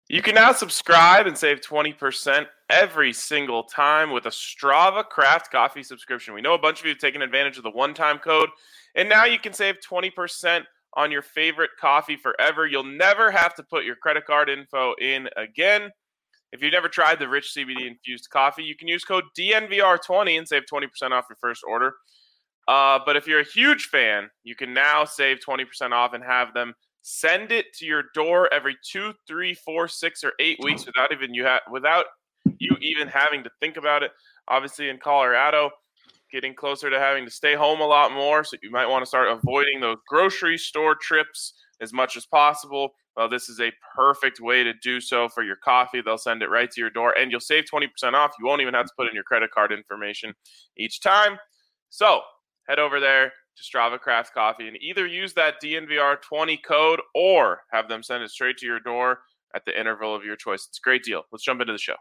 You can now subscribe and save 20% every single time with a Strava Craft Coffee subscription. We know a bunch of you have taken advantage of the one-time code, and now you can save 20% on your favorite coffee forever. You'll never have to put your credit card info in again. If you've never tried the rich CBD-infused coffee, you can use code DNVR20 and save 20% off your first order. But if you're a huge fan, you can now save 20% off and have them send it to your door every 2, 3, 4, 6, or 8 weeks without you even having to think about it. Obviously, in Colorado, getting closer to having to stay home a lot more, so you might want to start avoiding those grocery store trips as much as possible. Well, this is a perfect way to do so for your coffee. They'll send it right to your door, and you'll save 20% off. You won't even have to put in your credit card information each time. So head over there to Strava Craft Coffee and either use that DNVR20 code or have them send it straight to your door at the interval of your choice. It's a great deal. Let's jump into the show.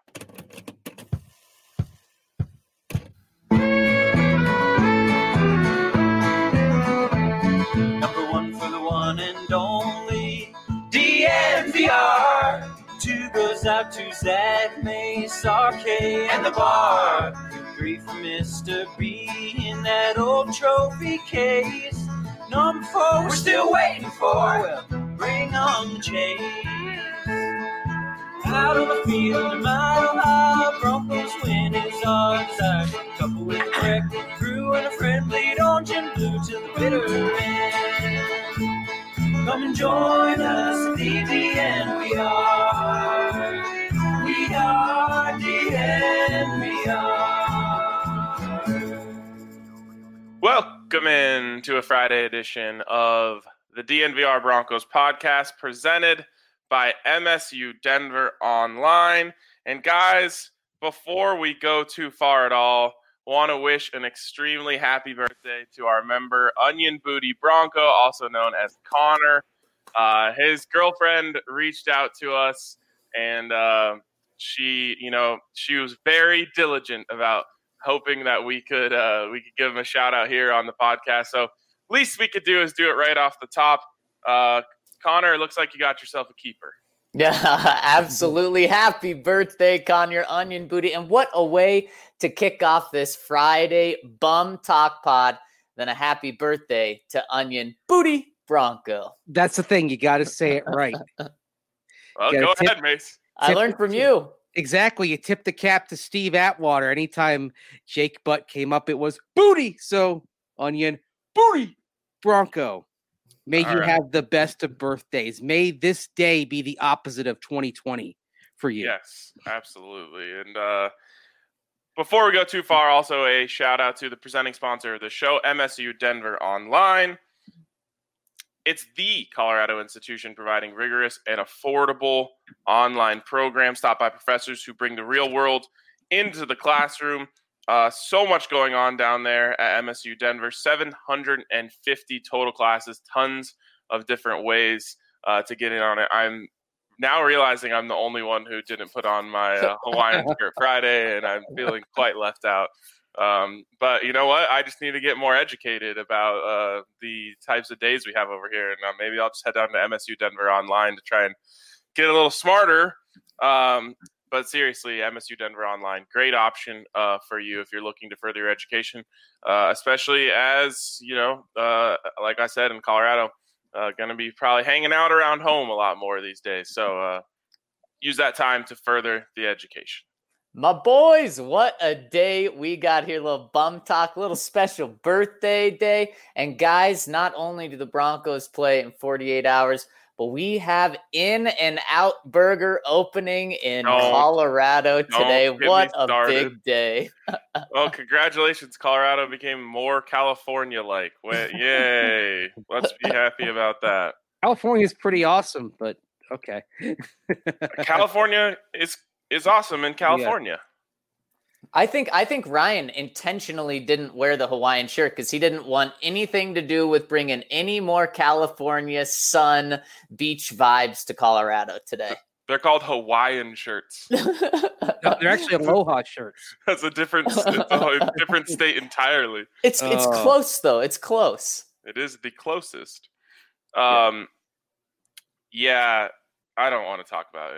Number one for the one and only DNVR. 2 goes out to Zach Mace, RK, and the bar. 3 for Mr. B in that old trophy case. Number 4 we're still waiting for. Well, bring on the chase. Out on the field, a mile high, Broncos win is our desire. Couple with a wrecking crew and a friendly orange and blue till the bitter end. Come and join us at the DNVR. We are DNVR. Welcome in to a Friday edition of the DNVR Broncos podcast presented by MSU Denver Online. And guys, before we go too far at all, want to wish an extremely happy birthday to our member Onion Booty Bronco, also known as Connor. His girlfriend reached out to us, and she was very diligent about hoping that we could give him a shout out here on the podcast. So least we could do is do it right off the top. Connor, it looks like you got yourself a keeper. Yeah, absolutely. Happy birthday, Connor Onion Booty. And what a way to kick off this Friday Bum Talk Pod than a happy birthday to Onion Booty Bronco. That's the thing. You got to say it right. Well, go ahead, Mace. I learned from you. Exactly. You tip the cap to Steve Atwater. Anytime Jake Butt came up, it was Booty. So, Onion Booty Bronco. May you have the best of birthdays. May this day be the opposite of 2020 for you. Yes, absolutely. And before we go too far, also a shout out to the presenting sponsor of the show, MSU Denver Online. It's the Colorado institution providing rigorous and affordable online programs taught by professors who bring the real world into the classroom. So much going on down there at MSU Denver, 750 total classes, tons of different ways to get in on it. I'm now realizing I'm the only one who didn't put on my Hawaiian shirt Friday, and I'm feeling quite left out. But you know what? I just need to get more educated about the types of days we have over here. And maybe I'll just head down to MSU Denver Online to try and get a little smarter. But seriously, MSU Denver Online, great option for you if you're looking to further your education, especially as, like I said, in Colorado, going to be probably hanging out around home a lot more these days. So use that time to further the education. My boys, what a day we got here. A little bum talk, a little special birthday day. And guys, not only do the Broncos play in 48 hours, but we have In-N-Out Burger opening in Colorado today. What a big day. Well, congratulations. Colorado became more California-like. Yay. Let's be happy about that. California is pretty awesome, but okay. California is awesome in California. Yeah. I think Ryan intentionally didn't wear the Hawaiian shirt because he didn't want anything to do with bringing any more California sun beach vibes to Colorado today. They're called Hawaiian shirts. No, they're actually Aloha shirts. That's a different state entirely. It's close though. It's close. It is the closest. Yeah. I don't want to talk about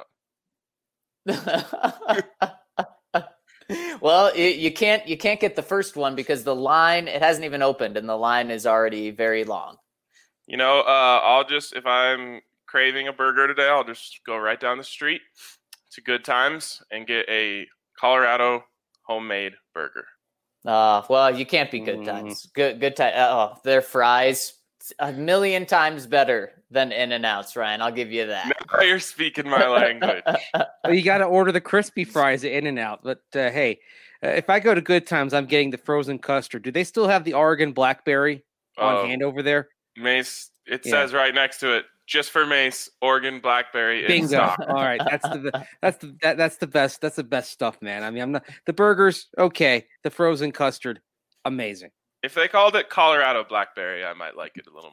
In-N-Out. Well, you can't get the first one because the line, it hasn't even opened and the line is already very long. I'll just, if I'm craving a burger today, I'll just go right down the street to Good Times and get a Colorado homemade burger. Well, you can't be Good Times. Good Times. Their fries, a million times better than In-N-Out's, Ryan. I'll give you that. Now you're speaking my language. Well, you got to order the crispy fries at In-N-Out. But hey, if I go to Good Times, I'm getting the frozen custard. Do they still have the Oregon blackberry on hand over there? Mace, it says right next to it, just for Mace, Oregon blackberry. Bingo! All right, that's the best. That's the best stuff, man. I mean, I'm not the burgers. Okay, the frozen custard, amazing. If they called it Colorado blackberry, I might like it a little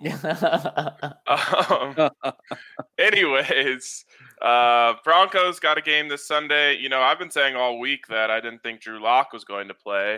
more. Anyways, Broncos got a game this Sunday. I've been saying all week that I didn't think Drew Lock was going to play.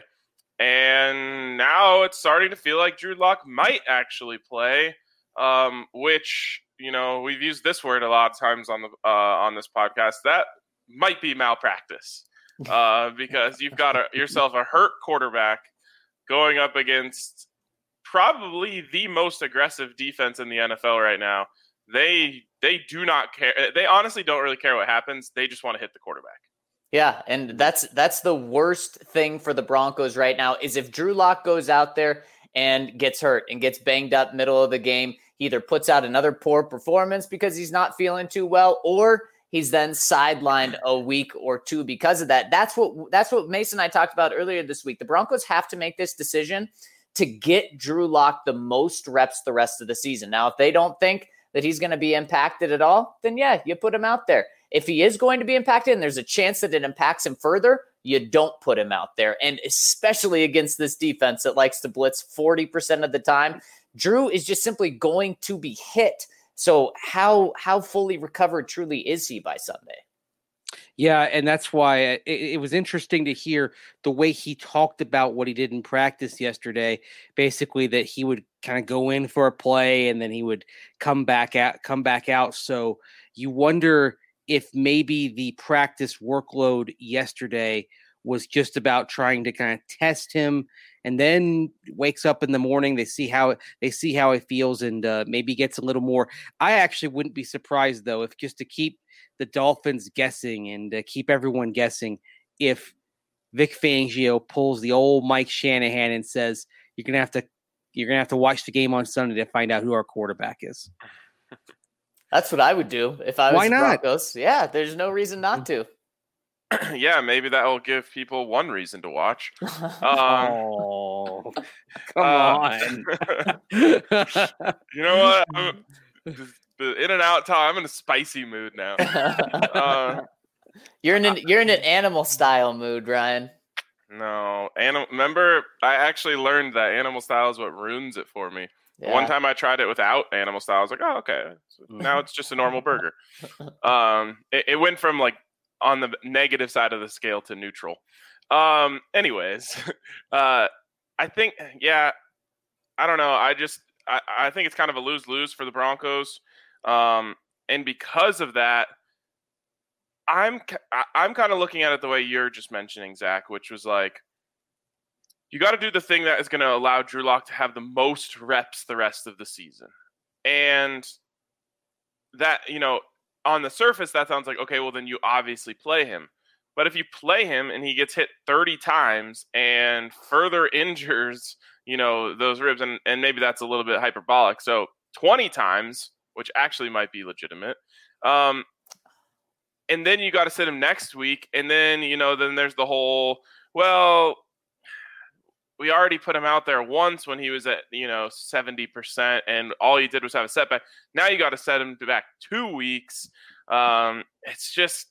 And now it's starting to feel like Drew Lock might actually play, which, we've used this word a lot of times on this podcast. That might be malpractice because you've got yourself a hurt quarterback going up against probably the most aggressive defense in the NFL right now. They do not care. They honestly don't really care what happens. They just want to hit the quarterback. Yeah, and that's the worst thing for the Broncos right now is if Drew Lock goes out there and gets hurt and gets banged up middle of the game, he either puts out another poor performance because he's not feeling too well, or he's then sidelined a week or two because of that. That's what Mason and I talked about earlier this week. The Broncos have to make this decision to get Drew Lock the most reps the rest of the season. Now, if they don't think that he's going to be impacted at all, then yeah, you put him out there. If he is going to be impacted and there's a chance that it impacts him further, you don't put him out there. And especially against this defense that likes to blitz 40% of the time, Drew is just simply going to be hit. So how fully recovered truly is he by Sunday? Yeah, and that's why it was interesting to hear the way he talked about what he did in practice yesterday. Basically, that he would kind of go in for a play and then he would come back out. So you wonder if maybe the practice workload yesterday was just about trying to kind of test him, and then wakes up in the morning, they see how he feels, and maybe gets a little more. I actually wouldn't be surprised though, if just to keep the Dolphins guessing and keep everyone guessing, if Vic Fangio pulls the old Mike Shanahan and says, you're gonna have to watch the game on Sunday to find out who our quarterback is. That's what I would do if I was the Broncos. Yeah, there's no reason not to. Yeah, maybe that will give people one reason to watch. Oh, come on. You know what? The In-N-Out talk. I'm in a spicy mood now. You're in an animal style mood, Ryan. No, remember, I actually learned that animal style is what ruins it for me. Yeah. One time I tried it without animal style. I was like, oh, okay. So now it's just a normal burger. It went from like on the negative side of the scale to neutral. Anyways, I think, I don't know. I think it's kind of a lose-lose for the Broncos. And because of that, I'm kind of looking at it the way you're just mentioning, Zach, which was like, you got to do the thing that is going to allow Drew Lock to have the most reps the rest of the season. And that, on the surface, that sounds like, okay, well, then you obviously play him. But if you play him and he gets hit 30 times and further injures, those ribs, and maybe that's a little bit hyperbolic. So 20 times, which actually might be legitimate. And then you got to sit him next week. And then, then there's the whole, well, we already put him out there once when he was at, 70%, and all he did was have a setback. Now you got to set him back 2 weeks. It's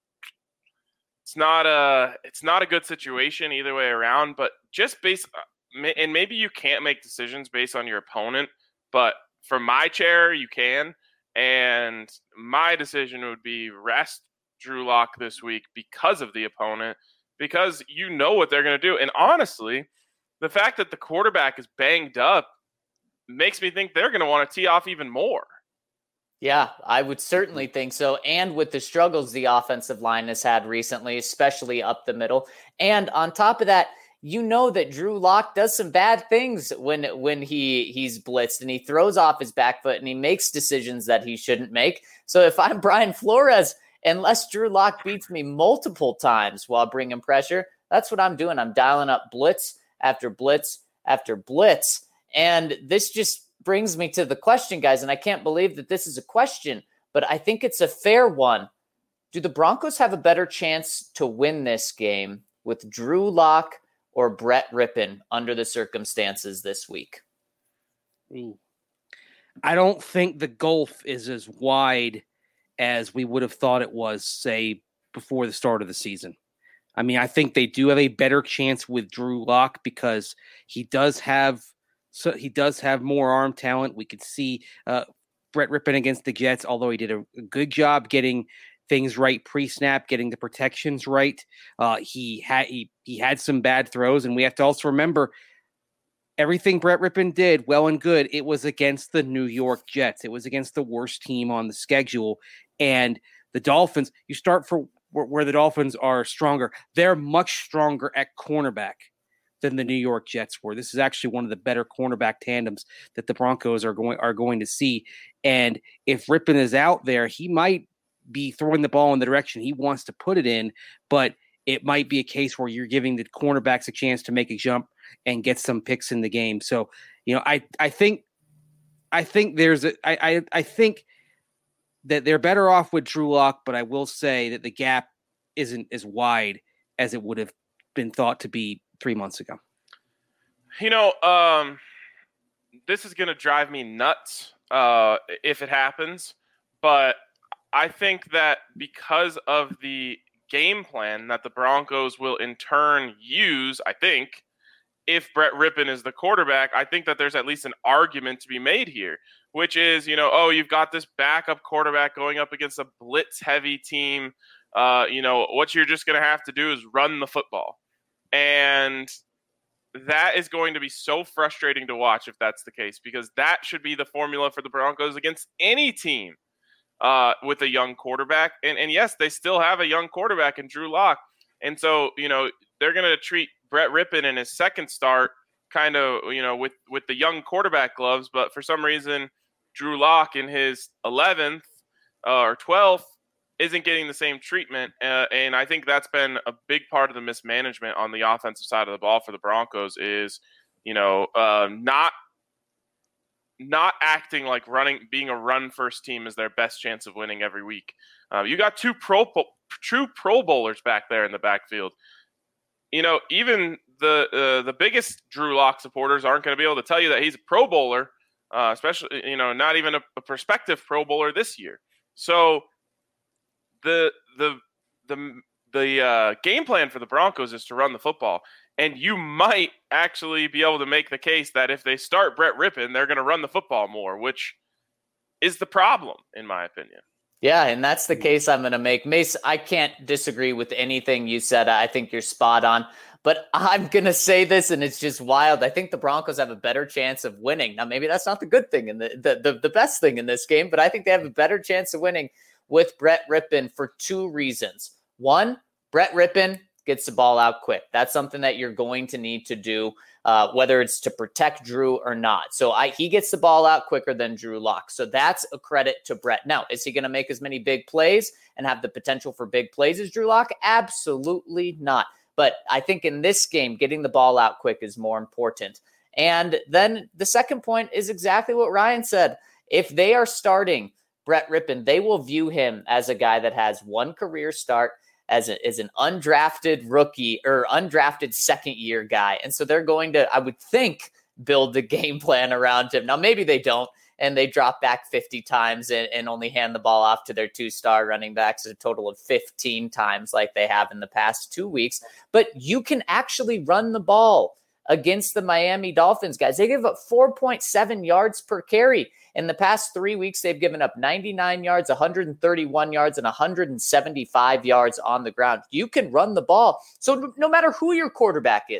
not a good situation either way around, but just and maybe you can't make decisions based on your opponent, but from my chair, you can. And my decision would be rest Drew Lock this week because of the opponent, because you know what they're going to do. And honestly, the fact that the quarterback is banged up makes me think they're going to want to tee off even more. Yeah, I would certainly think so. And with the struggles the offensive line has had recently, especially up the middle. And on top of that, you know that Drew Lock does some bad things when he's blitzed and he throws off his back foot and he makes decisions that he shouldn't make. So if I'm Brian Flores, unless Drew Lock beats me multiple times while bringing pressure, that's what I'm doing. I'm dialing up blitz after blitz after blitz. And this just brings me to the question, guys, and I can't believe that this is a question, but I think it's a fair one. Do the Broncos have a better chance to win this game with Drew Lock or Brett Rippon under the circumstances this week? I don't think the gulf is as wide as we would have thought it was, say, before the start of the season. I mean, I think they do have a better chance with Drew Lock because he does have more arm talent. We could see Brett Rippon against the Jets, although he did a good job getting things right pre-snap, getting the protections right. He had some bad throws, and we have to also remember everything Brett Rippon did, well and good, it was against the New York Jets. It was against the worst team on the schedule. And the Dolphins, you start for where the Dolphins are stronger. They're much stronger at cornerback than the New York Jets were. This is actually one of the better cornerback tandems that the Broncos are going to see. And if Rippon is out there, he might be throwing the ball in the direction he wants to put it in, but it might be a case where you're giving the cornerbacks a chance to make a jump and get some picks in the game. So, I think that they're better off with Drew Lock, but I will say that the gap isn't as wide as it would have been thought to be 3 months ago. This is going to drive me nuts if it happens, but I think that because of the game plan that the Broncos will in turn use, I think, if Brett Rippon is the quarterback, I think that there's at least an argument to be made here, which is, you've got this backup quarterback going up against a blitz-heavy team. What you're just going to have to do is run the football. And that is going to be so frustrating to watch if that's the case, because that should be the formula for the Broncos against any team with a young quarterback. And yes, they still have a young quarterback in Drew Lock. And so, they're going to treat Brett Rippon in his second start kind of, with the young quarterback gloves. But for some reason, Drew Lock in his 11th or 12th isn't getting the same treatment. And I think that's been a big part of the mismanagement on the offensive side of the ball for the Broncos is, not acting like being a run-first team is their best chance of winning every week. You got two true Pro Bowlers back there in the backfield. Even the biggest Drew Lock supporters aren't going to be able to tell you that he's a Pro Bowler, especially, not even a prospective Pro Bowler this year. So the game plan for the Broncos is to run the football. And you might actually be able to make the case that if they start Brett Rippon, they're going to run the football more, which is the problem, in my opinion. Yeah, and that's the case I'm going to make. Mace, I can't disagree with anything you said. I think you're spot on. But I'm going to say this, and it's just wild. I think the Broncos have a better chance of winning. Now, maybe that's not the good thing and the best thing in this game, but I think they have a better chance of winning with Brett Rippon for two reasons. One, Brett Rippon gets the ball out quick. That's something that you're going to need to do, whether it's to protect Drew or not. So he gets the ball out quicker than Drew Lock. So that's a credit to Brett. Now, is he going to make as many big plays and have the potential for big plays as Drew Lock? Absolutely not. But I think in this game, getting the ball out quick is more important. And then the second point is exactly what Ryan said. If they are starting Brett Rippon, they will view him as a guy that has one career start, as an undrafted rookie or undrafted second-year guy. And so they're going to, I would think, build the game plan around him. Now, maybe they don't, and they drop back 50 times and only hand the ball off to their two-star running backs a total of 15 times like they have in the past 2 weeks. But you can actually run the ball against the Miami Dolphins, guys. They give up 4.7 yards per carry. In the past 3 weeks, they've given up 99 yards, 131 yards, and 175 yards on the ground. You can run the ball. So no matter who your quarterback is,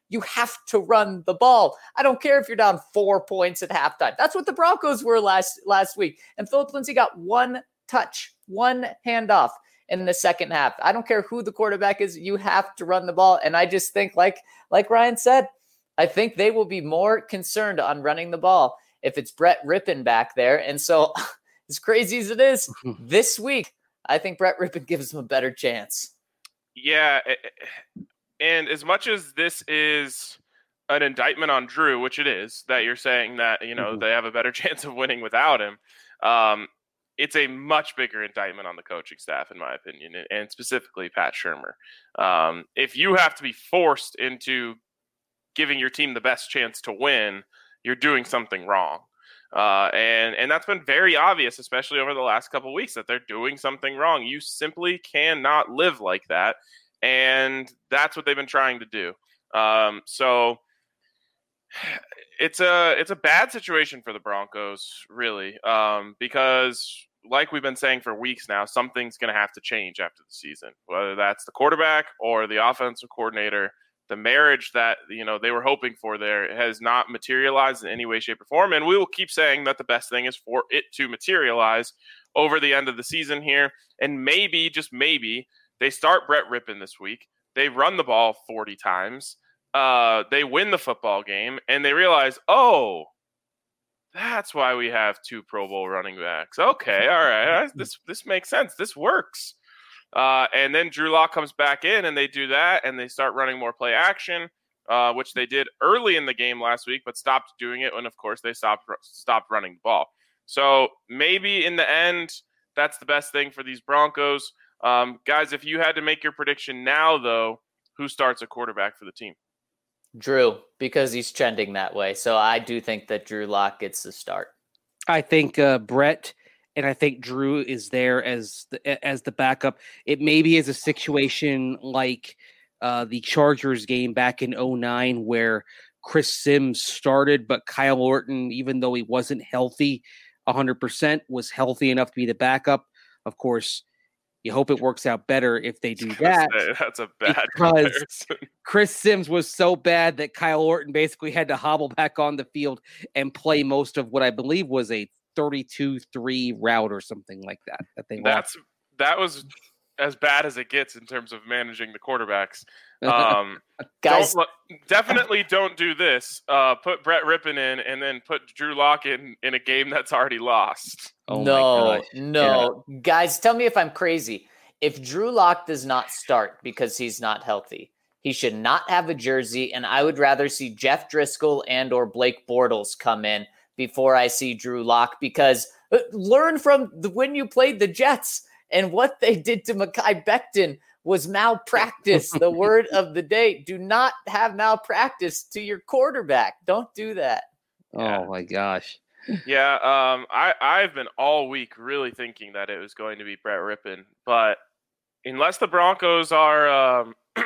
You have to run the ball. I don't care if you're down 4 points at halftime. That's what the Broncos were last week. And Phillip Lindsay got one touch, one handoff in the second half. I don't care who the quarterback is. You have to run the ball. And I just think, like Ryan said, I think they will be more concerned on running the ball if it's Brett Rippon back there. And so as crazy as it is, this week, I think Brett Rippon gives them a better chance. Yeah, and as much as this is an indictment on Drew, which it is, that you're saying that, they have a better chance of winning without him, it's a much bigger indictment on the coaching staff, in my opinion, and specifically Pat Shurmur. If you have to be forced into giving your team the best chance to win, you're doing something wrong. And that's been very obvious, especially over the last couple of weeks, that they're doing something wrong. You simply cannot live like that. And that's what they've been trying to do. So it's a bad situation for the Broncos, really, because like we've been saying for weeks now, something's going to have to change after the season, whether that's the quarterback or the offensive coordinator. The marriage that, they were hoping for there has not materialized in any way, shape, or form. And we will keep saying that the best thing is for it to materialize over the end of the season here. And maybe, just maybe, they start Brett Rippon this week. They run the ball 40 times. They win the football game. And they realize, oh, that's why we have 2 Pro Bowl running backs. Okay, all right. This makes sense. This works. And then Drew Lock comes back in and they do that and they start running more play action, which they did early in the game last week, but stopped doing it when, of course, they stopped running the ball. So maybe in the end, that's the best thing for these Broncos. Guys, if you had to make your prediction now, though, who starts a quarterback for the team? Drew, because he's trending that way. So I do think that Drew Lock gets the start. I think Brett and I think Drew is there as the backup. It maybe is a situation like the Chargers game back in 2009 where Chris Sims started, but Kyle Orton, even though he wasn't healthy 100%, was healthy enough to be the backup. Of course, you hope it works out better if they do that. That's a bad because Chris Sims was so bad that Kyle Orton basically had to hobble back on the field and play most of what I believe was a 32-3 route or something like that they lost. That was as bad as it gets in terms of managing the quarterbacks. Guys, definitely don't do this. Put Brett Rippon in and then put Drew Lock in a game that's already lost. Oh no. Yeah. Guys, tell me if I'm crazy. If Drew Lock does not start because he's not healthy, he should not have a jersey, and I would rather see Jeff Driscoll and or Blake Bortles come in before I see Drew Lock, because learn from when you played the Jets and what they did to Mekhi Becton was malpractice. The word of the day. Do not have malpractice to your quarterback. Don't do that. Oh my gosh. Yeah. I've been all week really thinking that it was going to be Brett Rippon, but unless the Broncos are,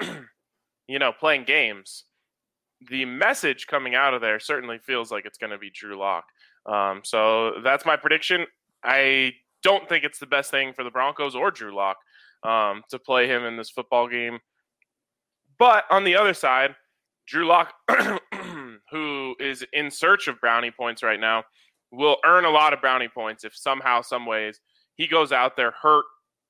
playing games, the message coming out of there certainly feels like it's going to be Drew Lock. So that's my prediction. I don't think it's the best thing for the Broncos or Drew Lock to play him in this football game. But on the other side, Drew Lock, who is in search of brownie points right now, will earn a lot of brownie points if somehow, some ways, he goes out there hurt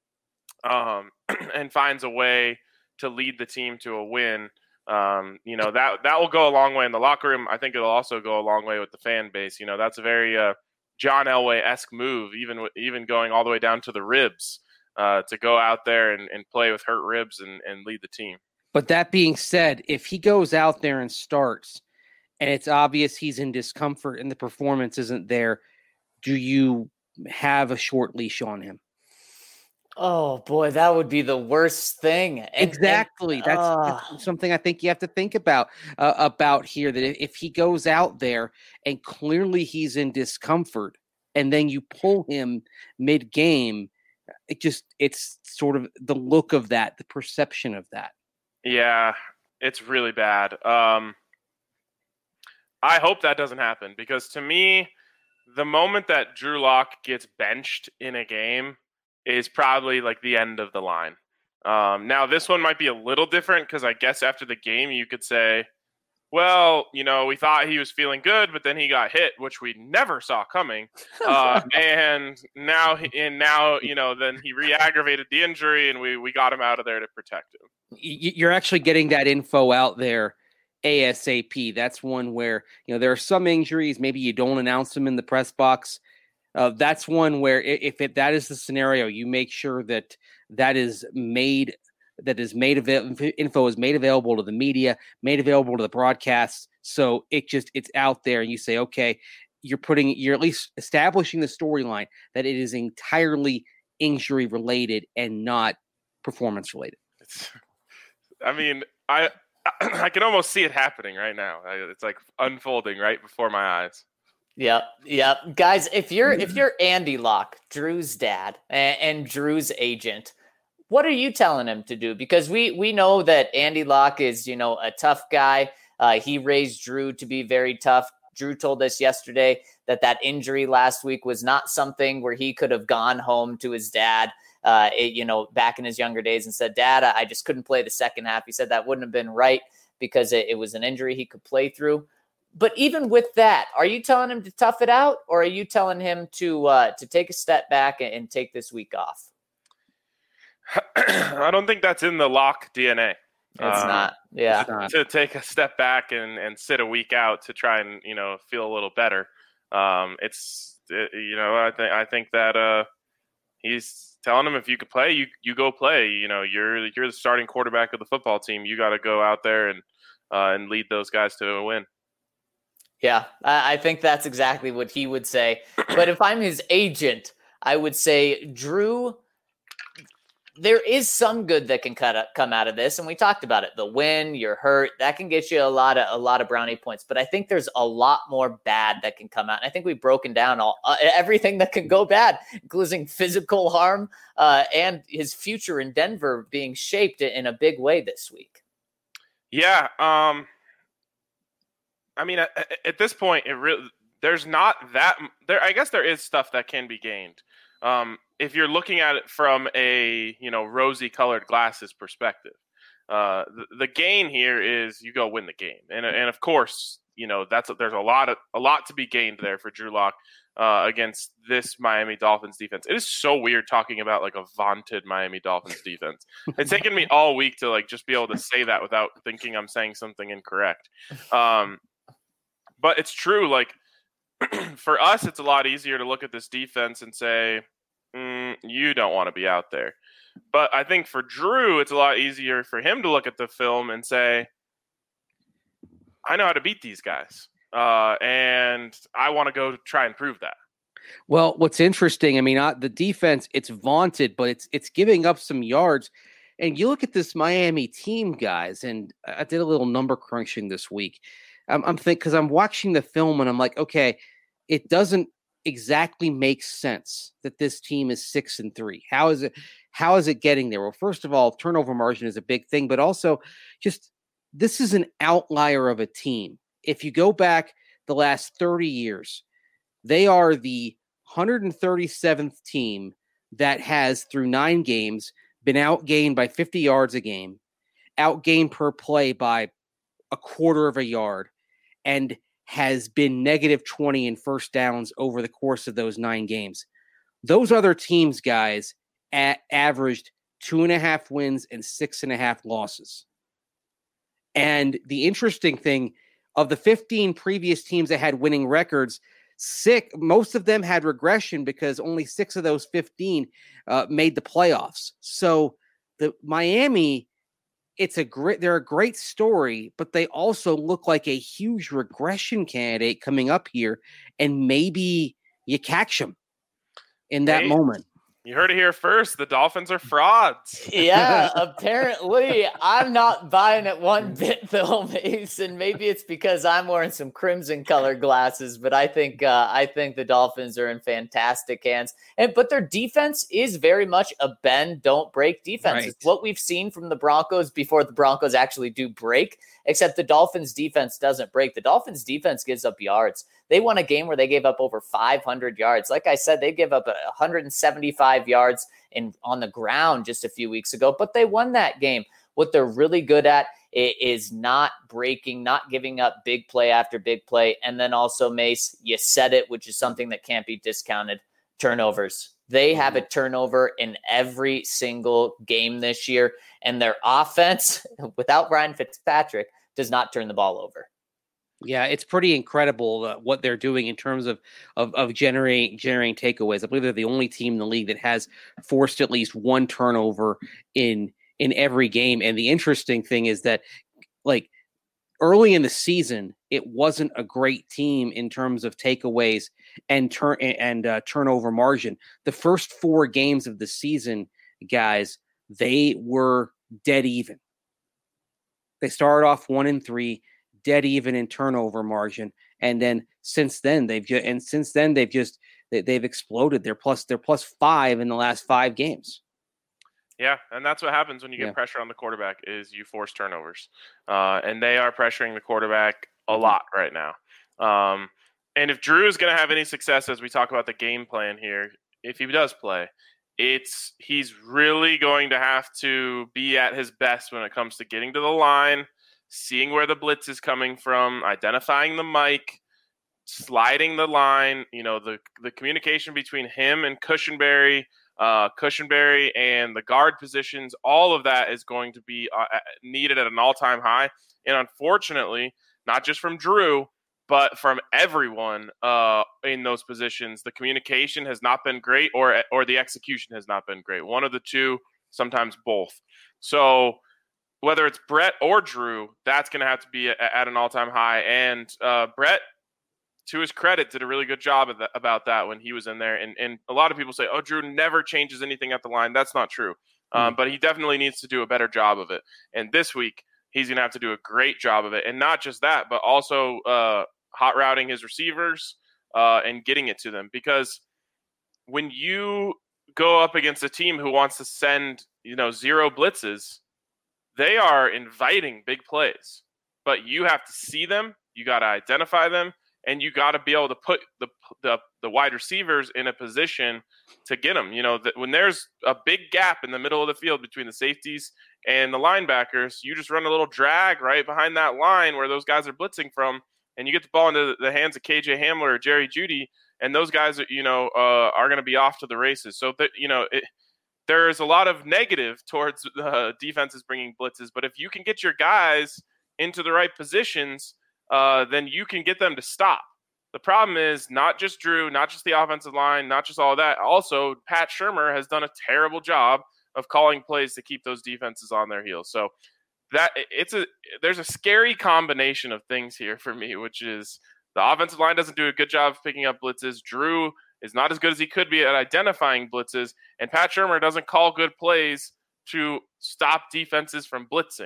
and finds a way to lead the team to a win. That will go a long way in the locker room. I think it'll also go a long way with the fan base. That's a very John Elway-esque move, even going all the way down to the ribs, to go out there and play with hurt ribs and lead the team. But that being said, if he goes out there and starts and it's obvious he's in discomfort and the performance isn't there, do you have a short leash on him? Oh boy, that would be the worst thing. Exactly. That's something I think you have to think about here, that if he goes out there and clearly he's in discomfort and then you pull him mid-game, it's sort of the look of that, the perception of that. Yeah, it's really bad. I hope that doesn't happen, because to me, the moment that Drew Lock gets benched in a game is probably like the end of the line. Now, this one might be a little different because I guess after the game you could say, well, we thought he was feeling good, but then he got hit, which we never saw coming. And now, then he re-aggravated the injury, and we got him out of there to protect him. You're actually getting that info out there ASAP. That's one where, there are some injuries, maybe you don't announce them in the press box. That's one where if that is the scenario, you make sure that info is made available to the media, made available to the broadcasts. So it's out there, and you say, okay, you're at least establishing the storyline that it is entirely injury related and not performance related. I can almost see it happening right now. It's like unfolding right before my eyes. Yep. Guys, if you're Andy Locke, Drew's dad, and Drew's agent, what are you telling him to do? Because we know that Andy Locke is, a tough guy. He raised Drew to be very tough. Drew told us yesterday that injury last week was not something where he could have gone home to his dad, back in his younger days and said, Dad, I just couldn't play the second half. He said that wouldn't have been right because it was an injury he could play through. But even with that, are you telling him to tough it out, or are you telling him to take a step back and take this week off? I don't think that's in the Locke DNA. It's not. Yeah. To take a step back and sit a week out to try and, feel a little better. I think that he's telling him if you could play, you go play. You're the starting quarterback of the football team. You got to go out there and lead those guys to a win. Yeah, I think that's exactly what he would say. But if I'm his agent, I would say, Drew, there is some good that can come out of this, and we talked about it. The win, you're hurt, that can get you a lot of brownie points. But I think there's a lot more bad that can come out. And I think we've broken down everything that can go bad, including physical harm and his future in Denver being shaped in a big way this week. Yeah. At this point, there's not that there. I guess there is stuff that can be gained. If you're looking at it from a rosy colored glasses perspective, the gain here is you go win the game, and of course there's a lot to be gained there for Drew Lock against this Miami Dolphins defense. It is so weird talking about like a vaunted Miami Dolphins defense. It's taken me all week to just be able to say that without thinking I'm saying something incorrect. But it's true. For us, it's a lot easier to look at this defense and say, you don't want to be out there. But I think for Drew, it's a lot easier for him to look at the film and say, I know how to beat these guys. And I want to go try and prove that. Well, what's interesting, the defense, it's vaunted, but it's giving up some yards. And you look at this Miami team, guys, and I did a little number crunching this week. I'm thinking, because I'm watching the film and I'm like, okay, it doesn't exactly make sense that this team is 6-3. How is it getting there? Well, first of all, turnover margin is a big thing, but also just this is an outlier of a team. If you go back the last 30 years, they are the 137th team that has, through 9 games, been outgained by 50 yards a game, outgained per play by a quarter of a yard, and has been -20 in first downs over the course of those 9 games. Those other teams, guys, averaged 2.5 wins and 6.5 losses. And the interesting thing, of the 15 previous teams that had winning records, most of them had regression because only 6 of those 15 made the playoffs. So the Miami, they're a great story, but they also look like a huge regression candidate coming up here, and maybe you catch them in that moment. You heard it here first. The Dolphins are frauds. Yeah, apparently. I'm not buying it one bit, though, Mason. Maybe it's because I'm wearing some crimson colored glasses, but I think the Dolphins are in fantastic hands. But their defense is very much a bend, don't break defense. Right. It's what we've seen from the Broncos before the Broncos actually do break, except the Dolphins defense doesn't break. The Dolphins defense gives up yards. They won a game where they gave up over 500 yards. Like I said, they gave up 175 yards on the ground just a few weeks ago, but they won that game. What they're really good at It is not breaking, not giving up big play after big play. And then also, Mace, you said it, which is something that can't be discounted, turnovers. They have a turnover in every single game this year, and their offense, without Ryan Fitzpatrick, does not turn the ball over. Yeah, it's pretty incredible what they're doing in terms of generating takeaways. I believe they're the only team in the league that has forced at least one turnover in every game. And the interesting thing is that, like, early in the season, it wasn't a great team in terms of takeaways and turnover margin. The first 4 games of the season, guys, they were dead even. They started off 1-3, dead even in turnover margin, and then since then they've exploded. They're plus 5 in the last 5 games. Yeah, and that's what happens when you get pressure on the quarterback is you force turnovers. And they are pressuring the quarterback a lot right now. And if Drew is going to have any success as we talk about the game plan here, if he does play, he's really going to have to be at his best when it comes to getting to the line, seeing where the blitz is coming from, identifying the mic, sliding the line, the communication between him and Cushenberry and the guard positions, all of that is going to be needed at an all-time high. And unfortunately, not just from Drew, but from everyone in those positions, the communication has not been great or the execution has not been great. One of the two, sometimes both. So whether it's Brett or Drew, that's going to have to be at an all-time high. And Brett, to his credit, did a really good job about that when he was in there. And a lot of people say, oh, Drew never changes anything at the line. That's not true. But he definitely needs to do a better job of it. And this week, he's going to have to do a great job of it. And not just that, but also hot routing his receivers and getting it to them. Because when you go up against a team who wants to send, 0 blitzes, they are inviting big plays. But you have to see them. You got to identify them. And you got to be able to put the wide receivers in a position to get them. When there's a big gap in the middle of the field between the safeties and the linebackers, you just run a little drag right behind that line where those guys are blitzing from, and you get the ball into the hands of KJ Hamler or Jerry Jeudy, and those guys are going to be off to the races. So that there's a lot of negative towards defenses bringing blitzes, but if you can get your guys into the right positions, then you can get them to stop. The problem is not just Drew, not just the offensive line, not just all that. Also, Pat Shurmur has done a terrible job of calling plays to keep those defenses on their heels. So there's a scary combination of things here for me, which is the offensive line doesn't do a good job of picking up blitzes. Drew is not as good as he could be at identifying blitzes, and Pat Shurmur doesn't call good plays to stop defenses from blitzing.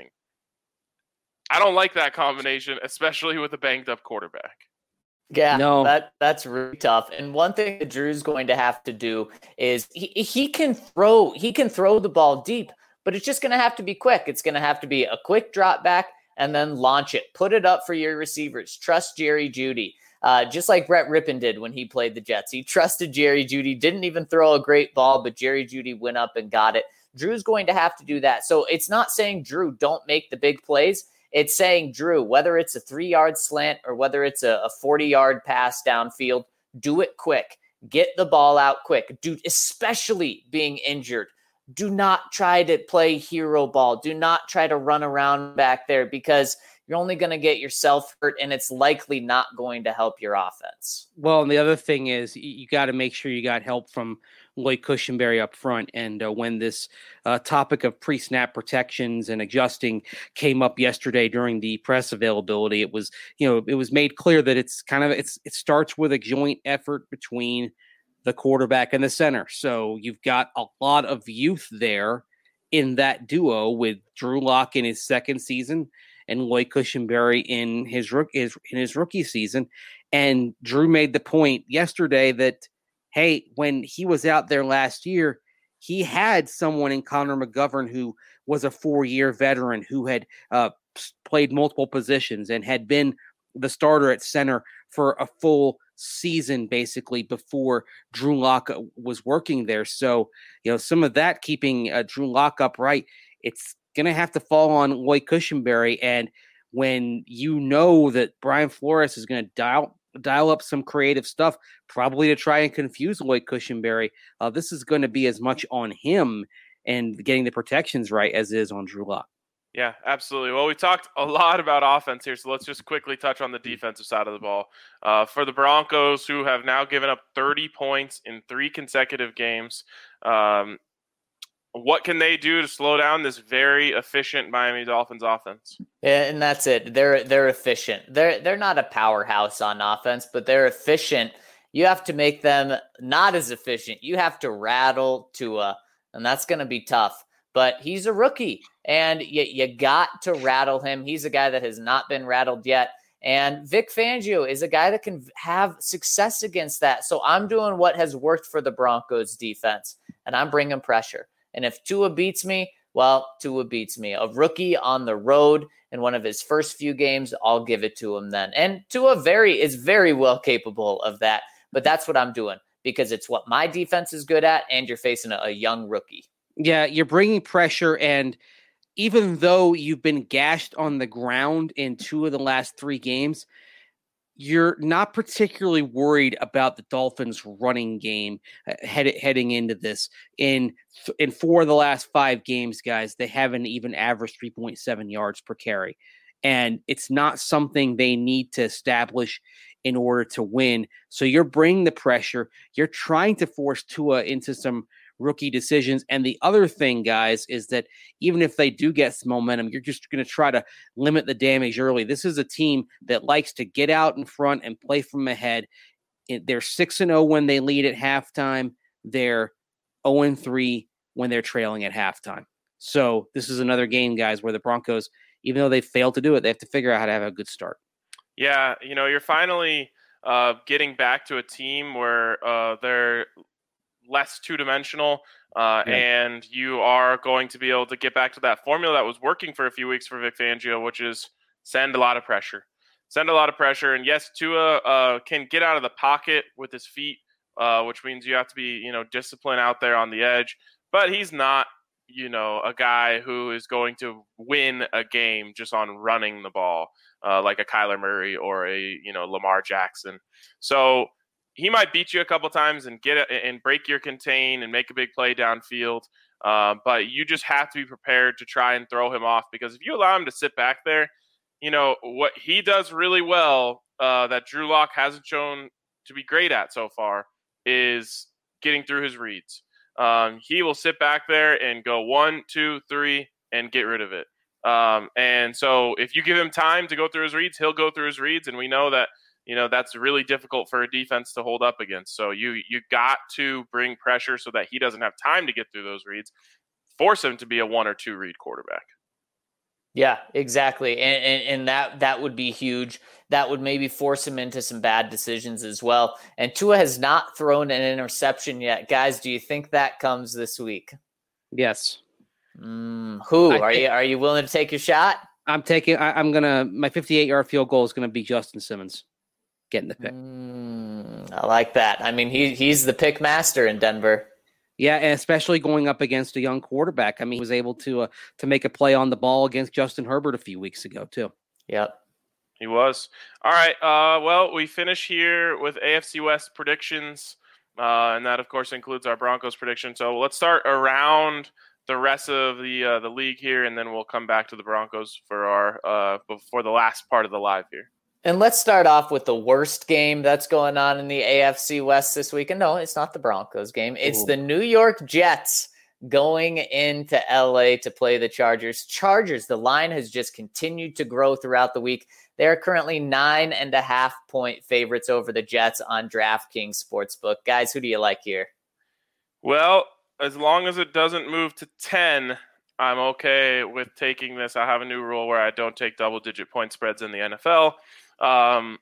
I don't like that combination, especially with a banged-up quarterback. Yeah, no. That's really tough. And one thing that Drew's going to have to do is he can throw the ball deep, but it's just going to have to be quick. It's going to have to be a quick drop back and then launch it. Put it up for your receivers. Trust Jerry Jeudy. Just like Brett Rippon did when he played the Jets. He trusted Jerry Jeudy, didn't even throw a great ball, but Jerry Jeudy went up and got it. Drew's going to have to do that. So it's not saying, Drew, don't make the big plays. It's saying, Drew, whether it's a 3-yard slant or whether it's a 40-yard pass downfield, do it quick. Get the ball out quick. Dude, especially being injured. Do not try to play hero ball. Do not try to run around back there because you're only going to get yourself hurt, and it's likely not going to help your offense. Well, and the other thing is you got to make sure you got help from Lloyd Cushenberry up front. And when this topic of pre-snap protections and adjusting came up yesterday during the press availability, it was made clear that it starts with a joint effort between the quarterback and the center. So you've got a lot of youth there in that duo with Drew Lock in his second season and Lloyd Cushenberry in his rookie season. And Drew made the point yesterday that, hey, when he was out there last year, he had someone in Connor McGovern who was a 4-year veteran who had played multiple positions and had been the starter at center for a full season, basically, before Drew Lock was working there. So, some of that keeping Drew Lock upright, it's going to have to fall on Lloyd Cushenberry. And when you know that Brian Flores is going to dial up some creative stuff, probably to try and confuse Lloyd Cushenberry, this is going to be as much on him and getting the protections right as it is on Drew Lock. Yeah, absolutely. Well, we talked a lot about offense here, so let's just quickly touch on the defensive side of the ball. For the Broncos, who have now given up 30 points in 3 consecutive games, what can they do to slow down this very efficient Miami Dolphins offense? Yeah, and that's it. They're efficient. They're not a powerhouse on offense, but they're efficient. You have to make them not as efficient. You have to rattle Tua, and that's going to be tough. But he's a rookie, and you got to rattle him. He's a guy that has not been rattled yet. And Vic Fangio is a guy that can have success against that. So I'm doing what has worked for the Broncos defense, and I'm bringing pressure. And if Tua beats me, well, Tua beats me. A rookie on the road in one of his first few games, I'll give it to him then. And Tua is very well capable of that. But that's what I'm doing because it's what my defense is good at, and you're facing a young rookie. Yeah, you're bringing pressure, and even though you've been gashed on the ground in 2 of the last 3 games, you're not particularly worried about the Dolphins' running game heading into this. In 4 of the last 5 games, guys, they haven't even averaged 3.7 yards per carry. And it's not something they need to establish in order to win. So you're bringing the pressure. You're trying to force Tua into some rookie decisions. And the other thing, guys, is that even if they do get some momentum, you're just going to try to limit the damage early. This is a team that likes to get out in front and play from ahead. They're 6-0 when they lead at halftime. They're 0-3 when they're trailing at halftime. So this is another game, guys, where the Broncos, even though they failed to do it, they have to figure out how to have a good start. Yeah, you're finally getting back to a team where they're less two-dimensional, and you are going to be able to get back to that formula that was working for a few weeks for Vic Fangio, which is send a lot of pressure. And yes, Tua can get out of the pocket with his feet, which means you have to be, disciplined out there on the edge, but he's not, a guy who is going to win a game just on running the ball, like a Kyler Murray or a, Lamar Jackson. So he might beat you a couple times and and break your contain and make a big play downfield. But you just have to be prepared to try and throw him off, because if you allow him to sit back there, what he does really well that Drew Lock hasn't shown to be great at so far is getting through his reads. He will sit back there and go 1, 2, 3 and get rid of it. And so if you give him time to go through his reads, he'll go through his reads. And we know that, that's really difficult for a defense to hold up against. So you got to bring pressure so that he doesn't have time to get through those reads. Force him to be a 1 or 2 read quarterback. Yeah, exactly. And that would be huge. That would maybe force him into some bad decisions as well. And Tua has not thrown an interception yet. Guys, do you think that comes this week? Yes. Are you willing to take your shot? I'm my 58-yard field goal is going to be Justin Simmons getting the pick. I like that. I mean, he's the pick master in Denver. Yeah, and especially going up against a young quarterback. I mean, he was able to make a play on the ball against Justin Herbert a few weeks ago, too. Yep. He was. All right. Well, we finish here with AFC West predictions, and that, of course, includes our Broncos prediction. So let's start around the rest of the league here, and then we'll come back to the Broncos for the last part of the live here. And let's start off with the worst game that's going on in the AFC West this week. And no, it's not the Broncos game. It's the New York Jets going into LA to play the Chargers. The line has just continued to grow throughout the week. They're currently 9.5-point favorites over the Jets on DraftKings Sportsbook. Guys, who do you like here? Well, as long as it doesn't move to 10, I'm okay with taking this. I have a new rule where I don't take double-digit point spreads in the NFL. I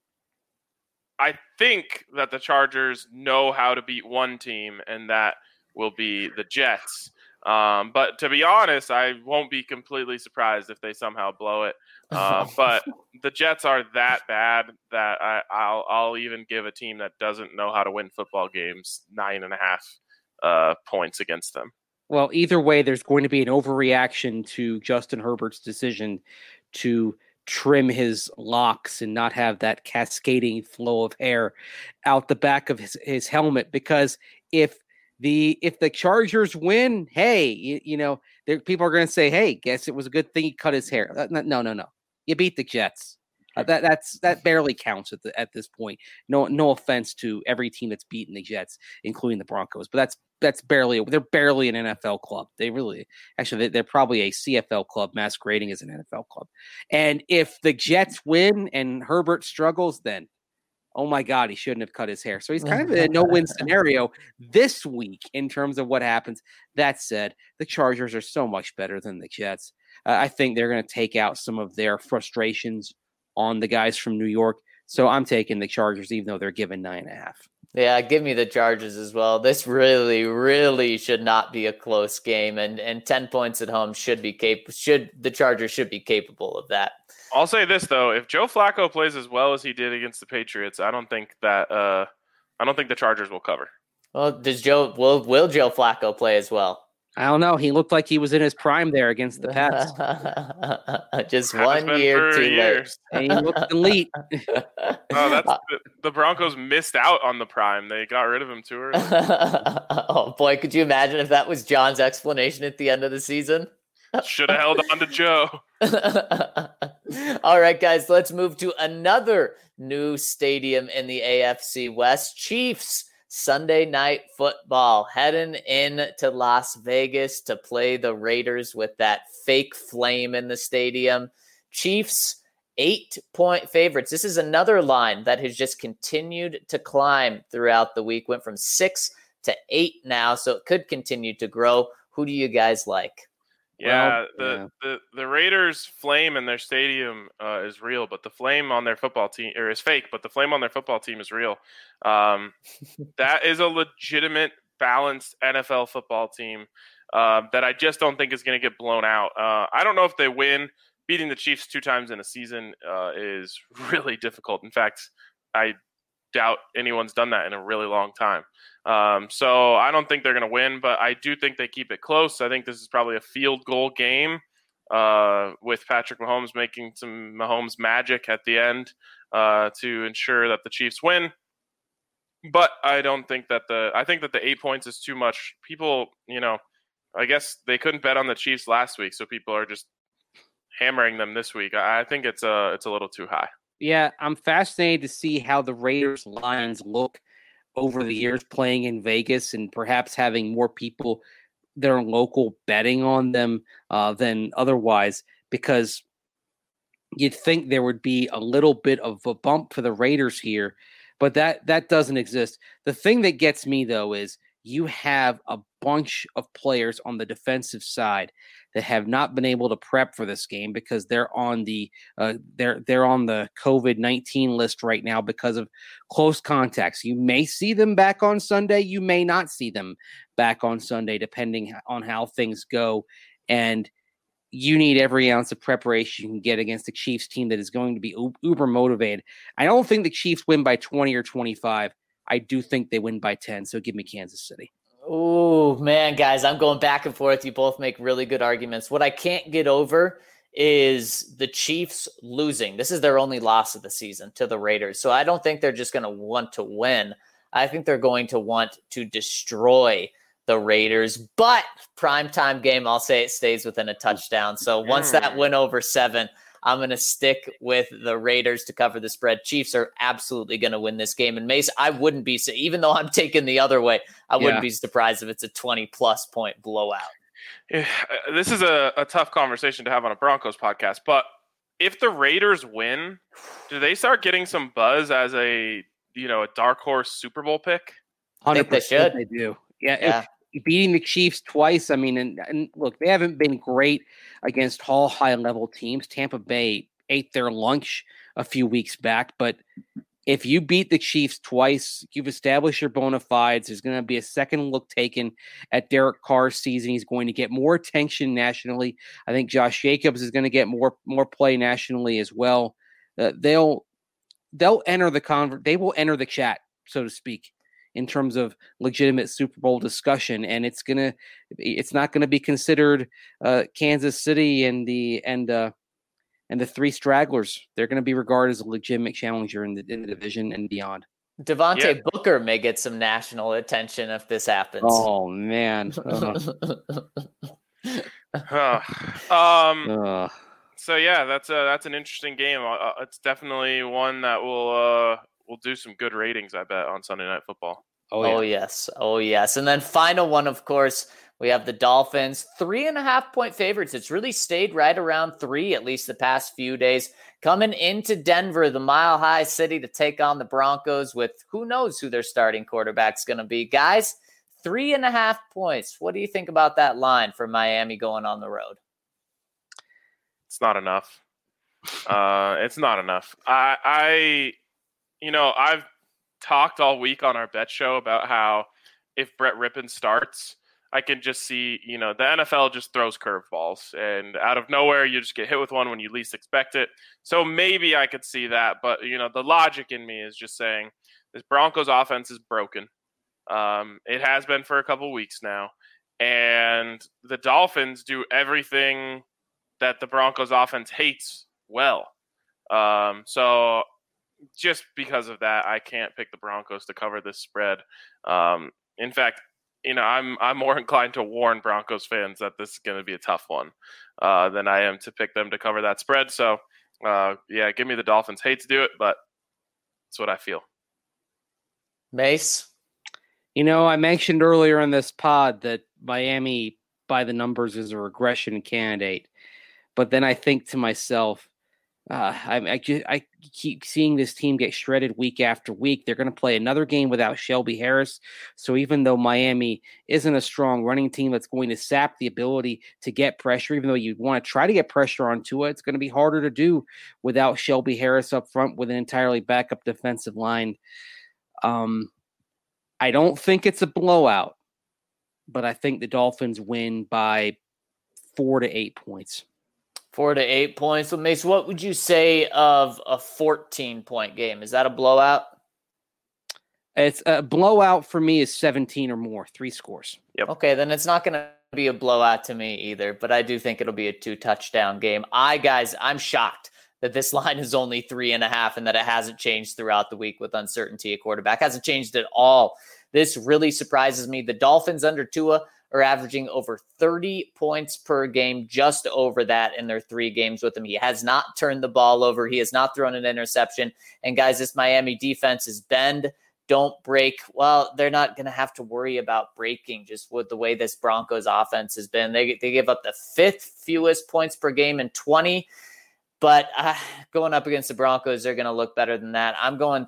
think that the Chargers know how to beat one team, and that will be the Jets. But to be honest, I won't be completely surprised if they somehow blow it. But the Jets are that bad that I'll even give a team that doesn't know how to win football games 9.5 points against them. Well, either way, there's going to be an overreaction to Justin Herbert's decision to trim his locks and not have that cascading flow of hair out the back of his helmet. Because if the Chargers win, hey, people are going to say, hey, guess it was a good thing he cut his hair. No. You beat the Jets. That barely counts at this point. No offense to every team that's beaten the Jets, including the Broncos, but they're barely an NFL club. They're probably a CFL club masquerading as an NFL club. And if the Jets win and Herbert struggles, then oh my God, he shouldn't have cut his hair. So he's kind of in a no-win scenario this week in terms of what happens. That said, the Chargers are so much better than the Jets. I think they're going to take out some of their frustrations on the guys from New York. So I'm taking the Chargers, even though they're given 9.5. Yeah, give me the Chargers as well. This really, really should not be a close game, and 10 points at home the Chargers should be capable of that. I'll say this though: if Joe Flacco plays as well as he did against the Patriots, I don't think the Chargers will cover. Well, will Joe Flacco play as well? I don't know. He looked like he was in his prime there against the Pats. Just 1 year too late. And he looked elite. The Broncos missed out on the prime. They got rid of him too early. Oh boy, could you imagine if that was John's explanation at the end of the season? Should have held on to Joe. All right, guys, let's move to another new stadium in the AFC West. Chiefs. Sunday Night Football, heading in to Las Vegas to play the Raiders with that fake flame in the stadium. Chiefs, 8-point favorites. This is another line that has just continued to climb throughout the week. Went from 6 to 8 now, so it could continue to grow. Who do you guys like? Yeah, the Raiders' flame in their stadium is real, but the flame on their football team is fake. But the flame on their football team is real. That is a legitimate, balanced NFL football team that I just don't think is going to get blown out. I don't know if they win. Beating the Chiefs 2 times in a season is really difficult. In fact, I doubt anyone's done that in a really long time. So I don't think they're going to win, but I do think they keep it close. I think this is probably a field goal game with Patrick Mahomes making some Mahomes magic at the end to ensure that the Chiefs win. But I don't think that I think that the 8 points is too much. People, I guess they couldn't bet on the Chiefs last week, so people are just hammering them this week. I think it's a little too high. Yeah, I'm fascinated to see how the Raiders lines look over the years playing in Vegas and perhaps having more people that are local betting on them than otherwise, because you'd think there would be a little bit of a bump for the Raiders here, but that doesn't exist. The thing that gets me, though, is you have a bunch of players on the defensive side that have not been able to prep for this game because they're on the COVID-19 list right now because of close contacts. You may see them back on Sunday. You may not see them back on Sunday, depending on how things go. And you need every ounce of preparation you can get against the Chiefs team that is going to be uber motivated. I don't think the Chiefs win by 20 or 25. I do think they win by 10, so give me Kansas City. Oh, man, guys, I'm going back and forth. You both make really good arguments. What I can't get over is the Chiefs losing. This is their only loss of the season to the Raiders. So I don't think they're just going to want to win. I think they're going to want to destroy the Raiders. But primetime game, I'll say it stays within a touchdown. So once that went over 7, I'm going to stick with the Raiders to cover the spread. Chiefs are absolutely going to win this game. And Mace, I wouldn't be, even though I'm taking the other way, I wouldn't be surprised if it's a 20-plus point blowout. This is a tough conversation to have on a Broncos podcast, but if the Raiders win, do they start getting some buzz as a dark horse Super Bowl pick? 100% I think they should. They do. Yeah. Beating the Chiefs twice. I mean, and look, they haven't been great against all high-level teams. Tampa Bay ate their lunch a few weeks back, but if you beat the Chiefs twice, you've established your bona fides. There's going to be a second look taken at Derek Carr's season. He's going to get more attention nationally. I think Josh Jacobs is going to get more play nationally as well. They'll enter the they will enter the chat, so to speak, in terms of legitimate Super Bowl discussion, and it's not gonna be considered Kansas City and the three stragglers. They're going to be regarded as a legitimate challenger in the division and beyond. Devontae Booker may get some national attention if this happens. Oh man. So yeah, that's an interesting game. It's definitely one that will do some good ratings, I bet, on Sunday Night Football. Oh yes. And then final one, of course, we have the Dolphins, 3.5-point favorites. It's really stayed right around 3, at least the past few days. Coming into Denver, the Mile High City, to take on the Broncos with who knows who their starting quarterback's going to be. Guys, 3.5 points. What do you think about that line for Miami going on the road? It's not enough. It's not enough. I've talked all week on our bet show about how if Brett Rippon starts, I can just see, the NFL just throws curveballs, and out of nowhere, you just get hit with one when you least expect it. So maybe I could see that, but, the logic in me is just saying this Broncos offense is broken. It has been for a couple weeks now, and the Dolphins do everything that the Broncos offense hates well. So just because of that, I can't pick the Broncos to cover this spread. In fact, I'm more inclined to warn Broncos fans that this is going to be a tough one than I am to pick them to cover that spread. So, give me the Dolphins. Hate to do it, but that's what I feel. Mace? I mentioned earlier in this pod that Miami, by the numbers, is a regression candidate. But then I think to myself, I keep seeing this team get shredded week after week. They're going to play another game without Shelby Harris. So even though Miami isn't a strong running team that's going to sap the ability to get pressure, even though you want to try to get pressure on Tua, it's going to be harder to do without Shelby Harris up front with an entirely backup defensive line. I don't think it's a blowout, but I think the Dolphins win by 4 to 8 points. 4 to 8 points. So, Mace, what would you say of a 14-point game? Is that a blowout? It's a blowout for me is 17 or more, 3 scores. Yep. Okay, then it's not going to be a blowout to me either, but I do think it'll be a 2-touchdown game. I'm shocked that this line is only 3.5 and that it hasn't changed throughout the week with uncertainty at quarterback. Hasn't changed at all. This really surprises me. The Dolphins under Tua are averaging over 30 points per game, just over that in their 3 games with him. He has not turned the ball over. He has not thrown an interception. And guys, this Miami defense is bend, don't break. Well, they're not going to have to worry about breaking just with the way this Broncos offense has been. They give up the 5th fewest points per game in 20. But going up against the Broncos, they're going to look better than that. I'm going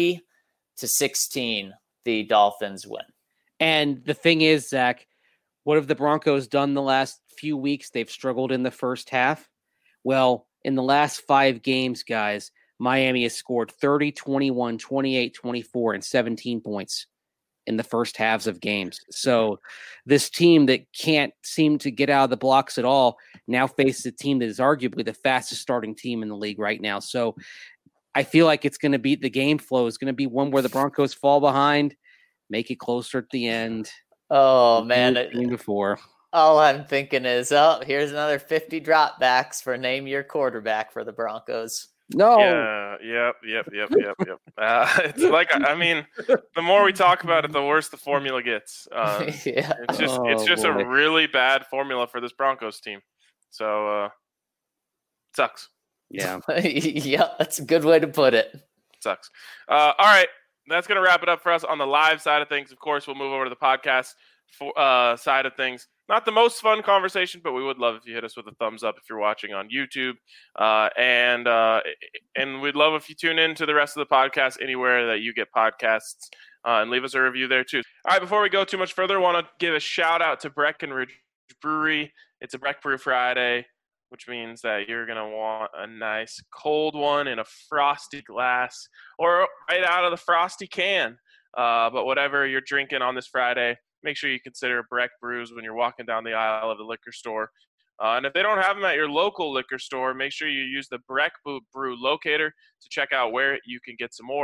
30-16. The Dolphins win. And the thing is, Zach, what have the Broncos done the last few weeks? They've struggled in the first half. Well, in the last 5 games, guys, Miami has scored 30, 21, 28, 24, and 17 points in the first halves of games. So this team that can't seem to get out of the blocks at all now faces a team that is arguably the fastest starting team in the league right now. So I feel like it's going to be the game flow is going to be one where the Broncos fall behind, make it closer at the end. Oh, man. Before. All I'm thinking is, here's another 50 dropbacks for name your quarterback for the Broncos. No. Yeah, yep. It's like, the more we talk about it, the worse the formula gets. It's just a really bad formula for this Broncos team. So, it sucks. Yeah. Yeah, that's a good way to put it. Sucks. All right. That's going to wrap it up for us on the live side of things. Of course, we'll move over to the podcast side of things. Not the most fun conversation, but we would love if you hit us with a thumbs up if you're watching on YouTube. And we'd love if you tune in to the rest of the podcast anywhere that you get podcasts and leave us a review there too. All right, before we go too much further, I want to give a shout out to Breckenridge Brewery. It's a Breck Brew Friday, which means that you're going to want a nice cold one in a frosty glass or right out of the frosty can. But whatever you're drinking on this Friday, make sure you consider Breck Brews when you're walking down the aisle of the liquor store. And if they don't have them at your local liquor store, make sure you use the Breck Brew locator to check out where you can get some more.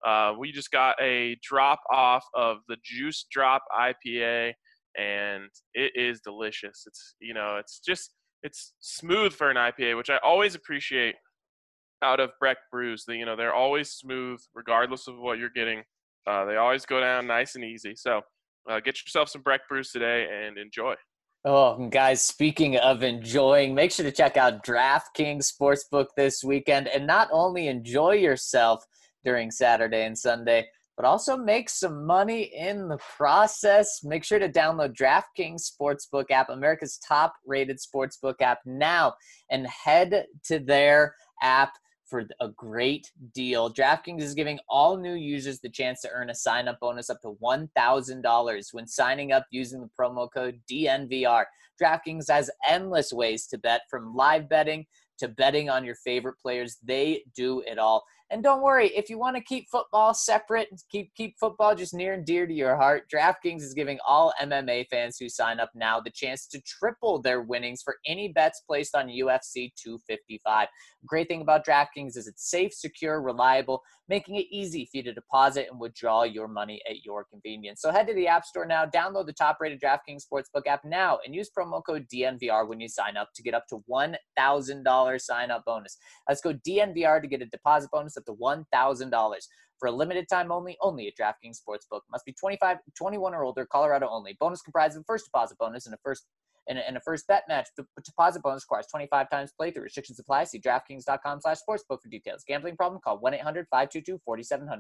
We just got a drop off of the Juice Drop IPA, and it is delicious. It's smooth for an IPA, which I always appreciate out of Breck Brews. They're always smooth regardless of what you're getting. They always go down nice and easy. So get yourself some Breck Brews today and enjoy. Oh, guys, speaking of enjoying, make sure to check out DraftKings Sportsbook this weekend and not only enjoy yourself during Saturday and Sunday, but also make some money in the process. Make sure to download DraftKings Sportsbook app, America's top-rated sportsbook app now, and head to their app for a great deal. DraftKings is giving all new users the chance to earn a sign-up bonus up to $1,000 when signing up using the promo code DNVR. DraftKings has endless ways to bet, from live betting to betting on your favorite players. They do it all. And don't worry, if you want to keep football separate, keep football just near and dear to your heart, DraftKings is giving all MMA fans who sign up now the chance to triple their winnings for any bets placed on UFC 255. The great thing about DraftKings is it's safe, secure, reliable, making it easy for you to deposit and withdraw your money at your convenience. So head to the App Store now, download the top-rated DraftKings Sportsbook app now, and use promo code DNVR when you sign up to get up to $1,000 sign-up bonus. Let's go DNVR to get a deposit bonus up to $1,000 for a limited time only at DraftKings Sportsbook. Must be 21 or older, Colorado only. Bonus comprised of a first deposit bonus and a first bet match. The deposit bonus requires 25 times playthrough. Restrictions apply. See DraftKings.com/sportsbook for details. Gambling problem? Call 1-800-522-4700.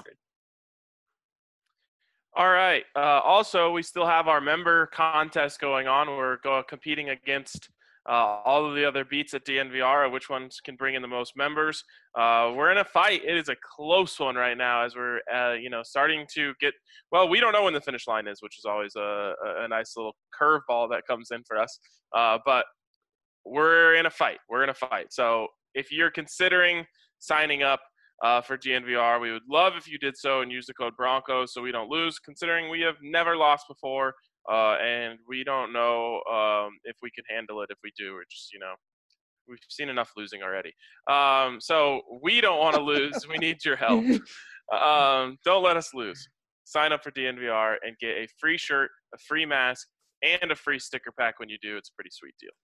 All right. Also, we still have our member contest going on. We're competing against all of the other beats at DNVR, which ones can bring in the most members. We're in a fight. It is a close one right now as we're, starting to get – well, we don't know when the finish line is, which is always a nice little curveball that comes in for us. But we're in a fight. So if you're considering signing up for DNVR, we would love if you did so and use the code Broncos so we don't lose, considering we have never lost before. And we don't know if we can handle it if we do. We're just, we've seen enough losing already. So we don't want to lose. We need your help. Don't let us lose. Sign up for DNVR and get a free shirt, a free mask, and a free sticker pack when you do. It's a pretty sweet deal.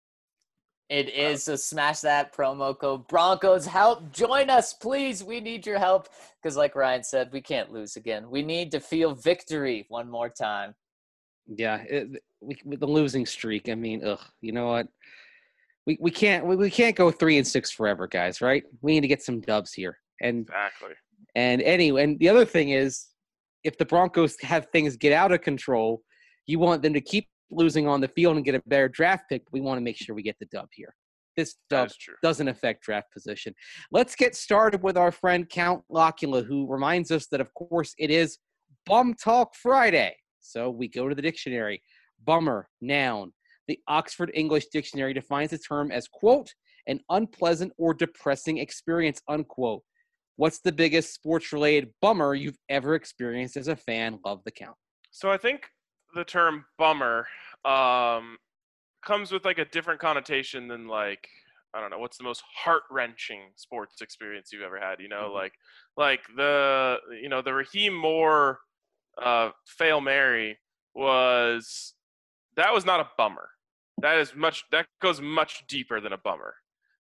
It is, so smash that promo code Broncos. Help, join us, please. We need your help because, like Ryan said, we can't lose again. We need to feel victory one more time. Yeah, with the losing streak. I mean, you know what? We can't go 3-6 forever, guys. Right? We need to get some dubs here. And exactly. And anyway, and the other thing is, if the Broncos have things get out of control, you want them to keep losing on the field and get a better draft pick. But we want to make sure we get the dub here. This dub doesn't affect draft position. Let's get started with our friend Count Locula, who reminds us that, of course, it is Bum Talk Friday. So we go to the dictionary. Bummer, noun. The Oxford English Dictionary defines the term as, quote, an unpleasant or depressing experience, unquote. What's the biggest sports-related bummer you've ever experienced as a fan? Love the count. So I think the term bummer comes with like a different connotation than like, I don't know, what's the most heart-wrenching sports experience you've ever had? Like the Raheem Moore Fail Mary was not a bummer. That goes much deeper than a bummer.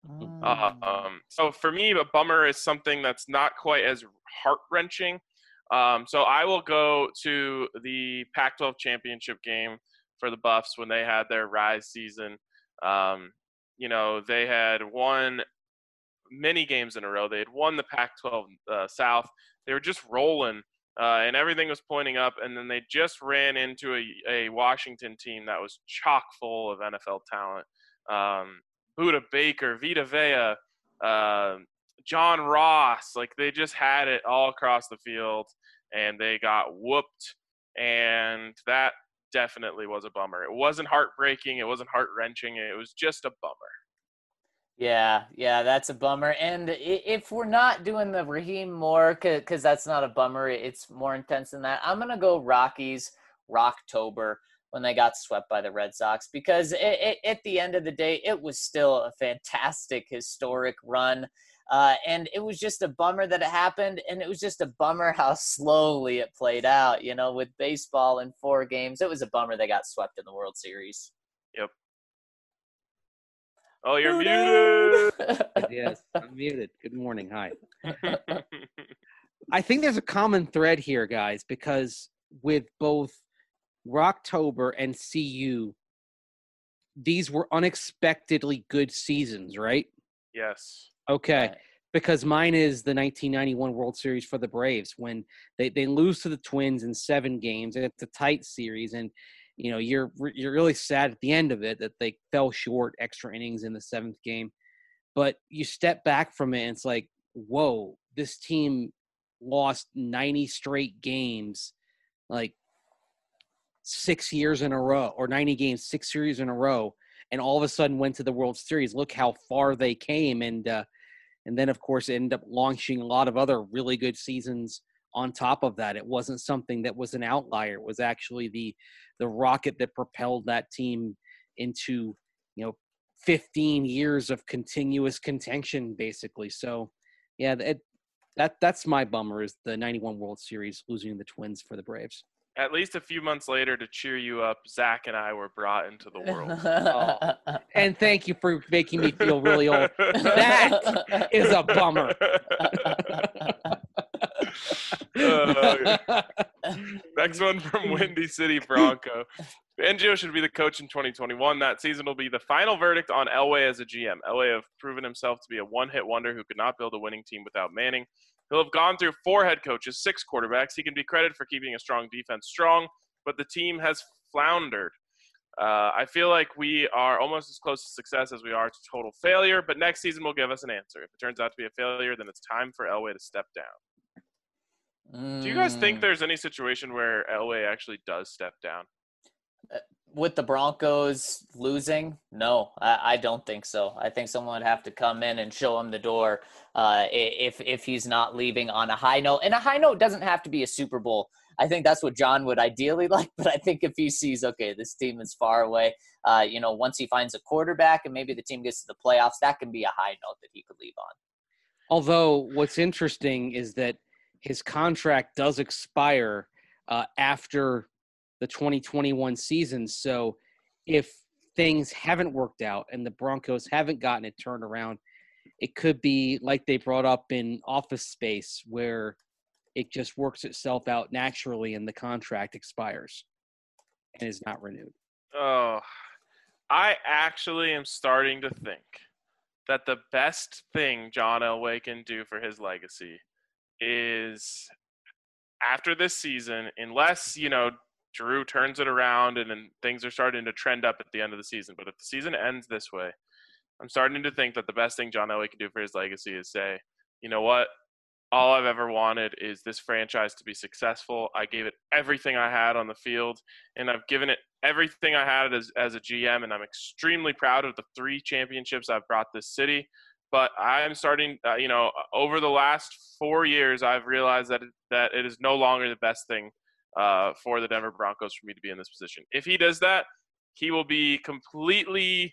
So for me, a bummer is something that's not quite as heart-wrenching. So I will go to the Pac-12 championship game for the Buffs when they had their Rise season. They had won many games in a row. They had won the Pac-12 South. They were just rolling. And everything was pointing up, and then they just ran into a Washington team that was chock full of NFL talent. Budda Baker, Vita Vea, John Ross, like they just had it all across the field, and they got whooped, and that definitely was a bummer. It wasn't heartbreaking. It wasn't heart-wrenching. It was just a bummer. Yeah, that's a bummer. And if we're not doing the Raheem Moore, because that's not a bummer, it's more intense than that, I'm going to go Rockies, Rocktober, when they got swept by the Red Sox, because at the end of the day, it was still a fantastic, historic run. And it was just a bummer that it happened, and it was just a bummer how slowly it played out. With baseball in 4 games, it was a bummer they got swept in the World Series. Yep. Oh, you're muted. Yes, I'm muted. Good morning. Hi. I think there's a common thread here, guys, because with both Rocktober and CU, these were unexpectedly good seasons, right? Yes. Okay. Right. Because mine is the 1991 World Series for the Braves when they lose to the Twins in 7 games, and it's a tight series, and you're really sad at the end of it that they fell short extra innings in the 7th game. But you step back from it and it's like, whoa, this team lost 90 straight games, like 6 years in a row, or 90 games, 6 series in a row, and all of a sudden went to the World Series. Look how far they came. And then, of course, it ended up launching a lot of other really good seasons on top of that. It wasn't something that was an outlier. It was actually the rocket that propelled that team into, 15 years of continuous contention, basically. So, yeah, that's my bummer, is the 91 World Series losing the Twins for the Braves. At least a few months later, to cheer you up, Zach and I were brought into the world. And thank you for making me feel really old. That is a bummer. Next one from Windy City Bronco. Fangio should be the coach in 2021. That season will be the final verdict on Elway as a GM. Elway have proven himself to be a one-hit wonder who could not build a winning team without Manning. He'll have gone through 4 head coaches, 6 quarterbacks. He can be credited for keeping a strong defense strong, but the team has floundered. I feel like we are almost as close to success as we are to total failure, but next season will give us an answer. If it turns out to be a failure, then it's time for Elway to step down. Do you guys think there's any situation where Elway actually does step down? With the Broncos losing? No, I don't think so. I think someone would have to come in and show him the door if he's not leaving on a high note. And a high note doesn't have to be a Super Bowl. I think that's what John would ideally like. But I think if he sees, okay, this team is far away, once he finds a quarterback and maybe the team gets to the playoffs, that can be a high note that he could leave on. Although what's interesting is that his contract does expire after the 2021 season. So if things haven't worked out and the Broncos haven't gotten it turned around, it could be like they brought up in Office Space, where it just works itself out naturally and the contract expires and is not renewed. Oh, I actually am starting to think that the best thing John Elway can do for his legacy is, after this season, unless, Drew turns it around and then things are starting to trend up at the end of the season. But if the season ends this way, I'm starting to think that the best thing John Elway can do for his legacy is say, you know what? All I've ever wanted is this franchise to be successful. I gave it everything I had on the field, and I've given it everything I had as a GM, and I'm extremely proud of the 3 championships I've brought this city. But I'm starting, over the last 4 years, I've realized that it is no longer the best thing for the Denver Broncos for me to be in this position. If he does that, he will be completely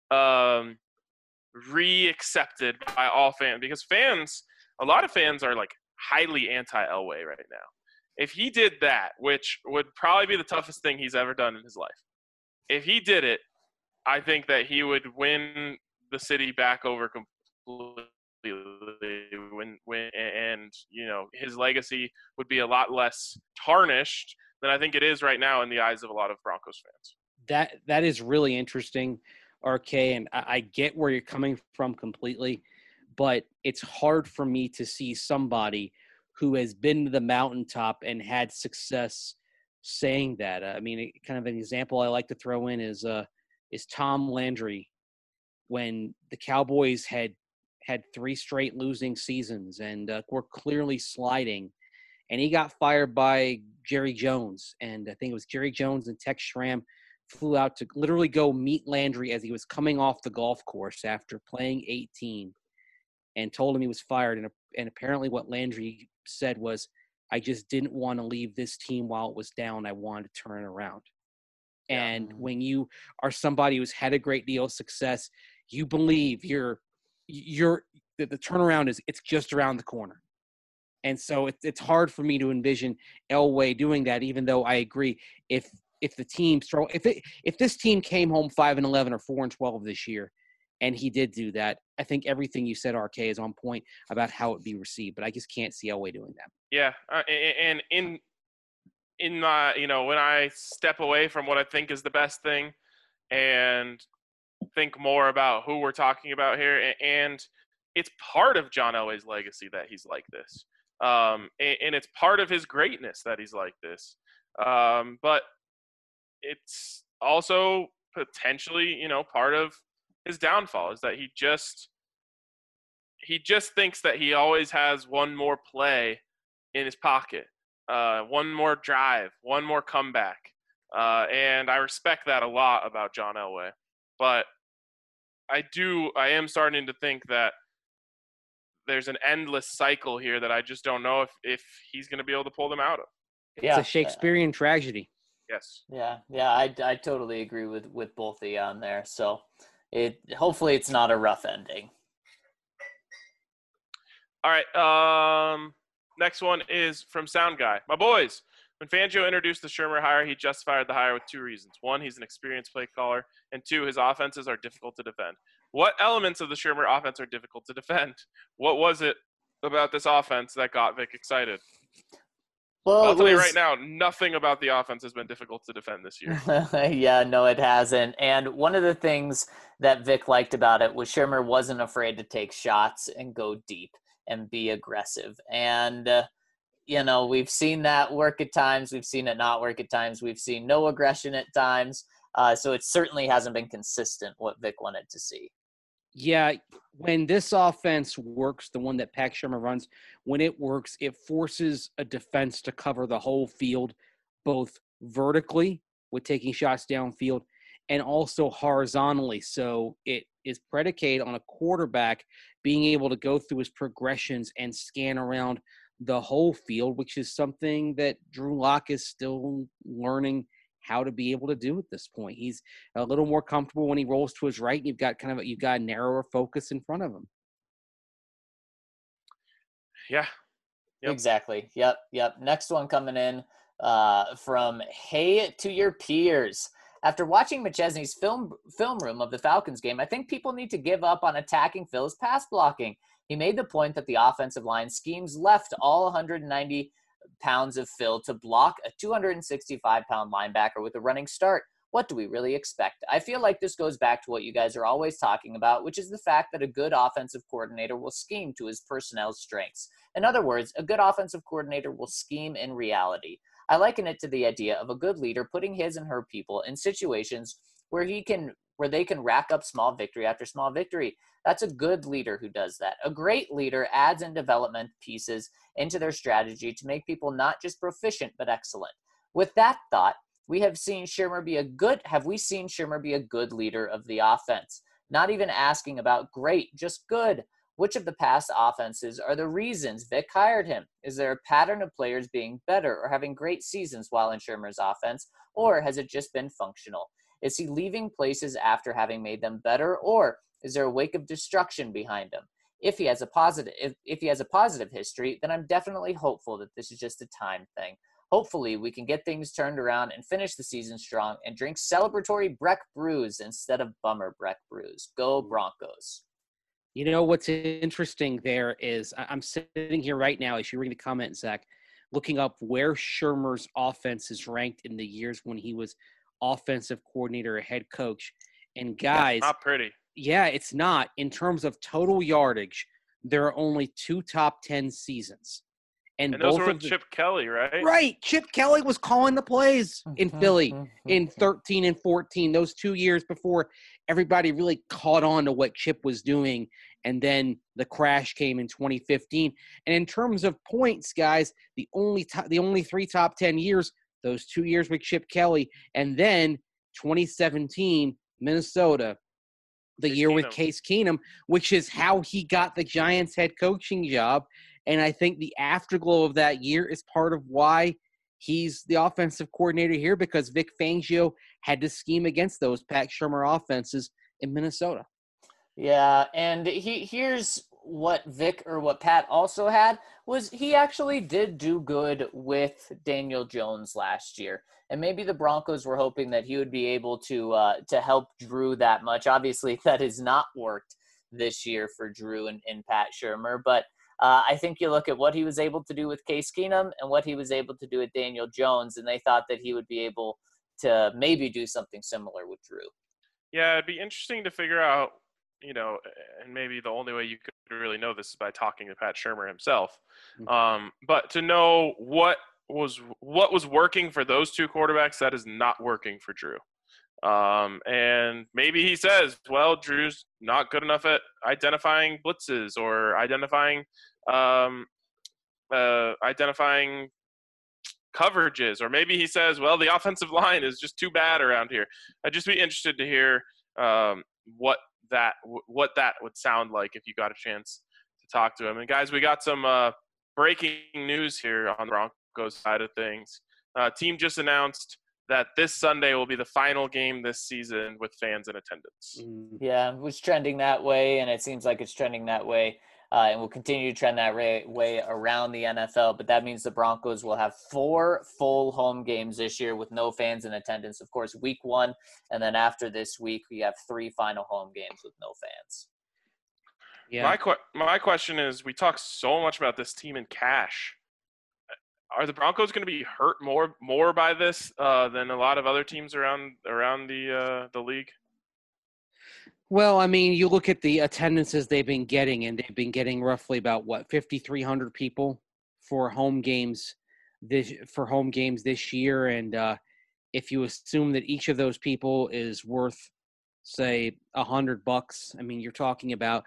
re-accepted by all fans, because a lot of fans are like highly anti-Elway right now. If he did that, which would probably be the toughest thing he's ever done in his life, if he did it, I think that he would win the city back over completely. And his legacy would be a lot less tarnished than I think it is right now in the eyes of a lot of Broncos fans. That is really interesting, RK, and I get where you're coming from completely, but it's hard for me to see somebody who has been to the mountaintop and had success saying that. I mean, kind of an example I like to throw in is Tom Landry, when the Cowboys had 3 straight losing seasons and were clearly sliding. And he got fired by Jerry Jones. And I think it was Jerry Jones and Tex Schramm flew out to literally go meet Landry as he was coming off the golf course after playing 18, and told him he was fired. And apparently what Landry said was, I just didn't want to leave this team while it was down. I wanted to turn it around. And when you are somebody who's had a great deal of success, you believe you're the turnaround it's just around the corner. And so it's hard for me to envision Elway doing that, even though I agree if the team if this team came home 5-11 or 4-12 this year, and he did do that, I think everything you said, RK, is on point about how it'd be received. But I just can't see Elway doing that. Yeah, and in when I step away from what I think is the best thing and think more about who we're talking about here, and it's part of John Elway's legacy that he's like this. And it's part of his greatness that he's like this. But it's also potentially, part of his downfall is that he just thinks that he always has one more play in his pocket, one more drive, one more comeback. And I respect that a lot about John Elway. But I am starting to think that there's an endless cycle here that I just don't know if he's going to be able to pull them out of. Yeah. It's a Shakespearean tragedy. Yes. Yeah. I totally agree with both of you on there. So hopefully it's not a rough ending. All right. Next one is from Sound Guy. My boys, when Fangio introduced the Shurmur hire, he justified the hire with two reasons. One, he's an experienced play caller, and two, his offenses are difficult to defend. What elements of the Shurmur offense are difficult to defend? What was it about this offense that got Vic excited? Well, I'll tell you right now, nothing about the offense has been difficult to defend this year. Yeah, no, it hasn't. And one of the things that Vic liked about it was Shurmur wasn't afraid to take shots and go deep and be aggressive. And, we've seen that work at times. We've seen it not work at times. We've seen no aggression at times. So it certainly hasn't been consistent what Vic wanted to see. Yeah, when this offense works, the one that Pat Shurmur runs, when it works, it forces a defense to cover the whole field, both vertically with taking shots downfield and also horizontally. So it is predicated on a quarterback being able to go through his progressions and scan around the whole field, which is something that Drew Lock is still learning how to be able to do at this point. He's a little more comfortable when he rolls to his right. You've got a narrower focus in front of him. Yeah. Yep. Exactly. Yep. Next one coming in from Hey to Your Peers. After watching McChesney's film room of the Falcons game, I think people need to give up on attacking Phil's pass blocking. He made the point that the offensive line schemes left all 190 pounds of Phil to block a 265-pound linebacker with a running start. What do we really expect? I feel like this goes back to what you guys are always talking about, which is the fact that a good offensive coordinator will scheme to his personnel's strengths. In other words, a good offensive coordinator will scheme in reality. I liken it to the idea of a good leader putting his and her people in situations where they can rack up small victory after small victory. That's a good leader who does that. A great leader adds in development pieces into their strategy to make people not just proficient, but excellent. With that thought, have we seen Shurmur be a good leader of the offense? Not even asking about great, just good. Which of the past offenses are the reasons Vic hired him? Is there a pattern of players being better or having great seasons while in Shurmur's offense, or has it just been functional? Is he leaving places after having made them better, or is there a wake of destruction behind him? If he has a positive history, then I'm definitely hopeful that this is just a time thing. Hopefully, we can get things turned around and finish the season strong and drink celebratory Breck brews instead of bummer Breck brews. Go Broncos. You know what's interesting there is I'm sitting here right now as you read the comment, Zach, looking up where Shurmur's offense is ranked in the years when he was offensive coordinator or head coach. And guys, not pretty. Yeah, it's not. In terms of total yardage, there are only 2 top 10 seasons. And those were with Chip Kelly, right? Right. Chip Kelly was calling the plays in Philly in 13 and 14, those 2 years before everybody really caught on to what Chip was doing. And then the crash came in 2015. And in terms of points, guys, the only 3 top 10 years, those 2 years with Chip Kelly, and then 2017, Minnesota, the year with Case Keenum, which is how he got the Giants head coaching job. And I think the afterglow of that year is part of why he's the offensive coordinator here, because Vic Fangio had to scheme against those Pat Shurmur offenses in Minnesota. Yeah, and here's what Pat also had was he actually did do good with Daniel Jones last year. And maybe the Broncos were hoping that he would be able to help Drew that much. Obviously, that has not worked this year for Drew and Pat Shurmur. But I think you look at what he was able to do with Case Keenum and what he was able to do with Daniel Jones, and they thought that he would be able to maybe do something similar with Drew. Yeah, it'd be interesting to figure out, and maybe the only way you could really know this is by talking to Pat Shurmur himself. But to know what was working for those two quarterbacks that is not working for Drew. And maybe he says, well, Drew's not good enough at identifying blitzes or identifying coverages, or maybe he says, well, the offensive line is just too bad around here. I'd just be interested to hear what that would sound like if you got a chance to talk to him. And guys, we got some breaking news here on the Broncos side of things. Team just announced that this Sunday will be the final game this season with fans in attendance. Yeah, it was trending that way, and it seems like it's trending that way, and will continue to trend that way around the NFL. But that means the Broncos will have 4 full home games this year with no fans in attendance. Of course, week 1, and then after this week, we have 3 final home games with no fans. Yeah. My question is, we talk so much about this team in cash. Are the Broncos going to be hurt more by this than a lot of other teams around the league? Well, I mean, you look at the attendances they've been getting, and they've been getting roughly about 5,300 people for home games this year. And if you assume that each of those people is worth, say, $100, I mean, you're talking about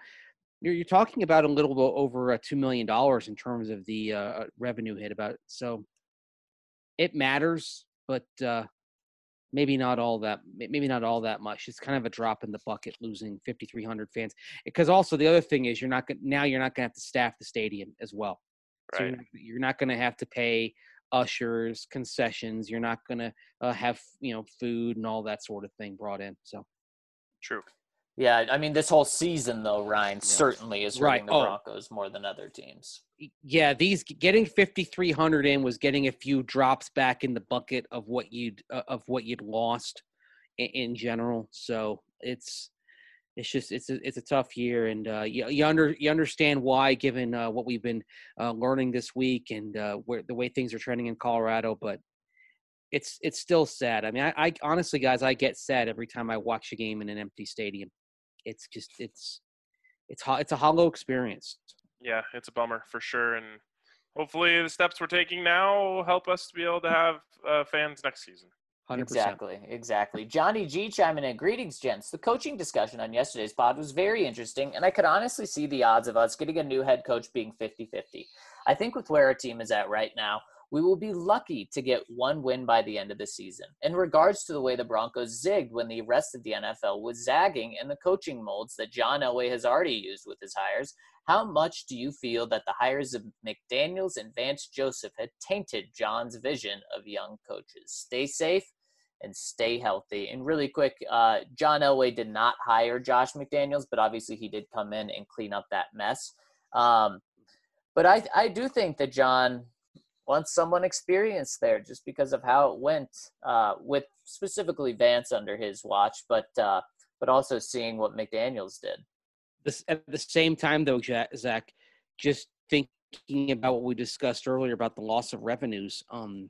a little bit over $2 million in terms of the revenue hit. So it matters, but maybe not all that much. It's kind of a drop in the bucket losing 5,300 fans. Because also the other thing is you're not going to have to staff the stadium as well. Right. So you're not going to have to pay ushers, concessions. You're not going to have food and all that sort of thing brought in. So true. Yeah, I mean, this whole season, though, Ryan, certainly is hurting the Broncos more than other teams. Yeah, getting 5,300 in was getting a few drops back in the bucket of what you'd lost in general. So it's a tough year, and you understand why, given what we've been learning this week and the way things are trending in Colorado. But it's still sad. I mean, I honestly, guys, I get sad every time I watch a game in an empty stadium. It's a hollow experience. Yeah, it's a bummer for sure, and hopefully the steps we're taking now will help us to be able to have fans next season. 100%. Exactly. Johnny G chiming in. Greetings, gents. The coaching discussion on yesterday's pod was very interesting, and I could honestly see the odds of us getting a new head coach being 50-50. I think with where our team is at right now, we will be lucky to get 1 win by the end of the season. In regards to the way the Broncos zigged when the rest of the NFL was zagging in the coaching molds that John Elway has already used with his hires, how much do you feel that the hires of McDaniels and Vance Joseph had tainted John's vision of young coaches? Stay safe and stay healthy. And really quick, John Elway did not hire Josh McDaniels, but obviously he did come in and clean up that mess. But I do think that John wants someone experienced there just because of how it went with specifically Vance under his watch, but also seeing what McDaniels did. At the same time, though, Zach, just thinking about what we discussed earlier about the loss of revenues,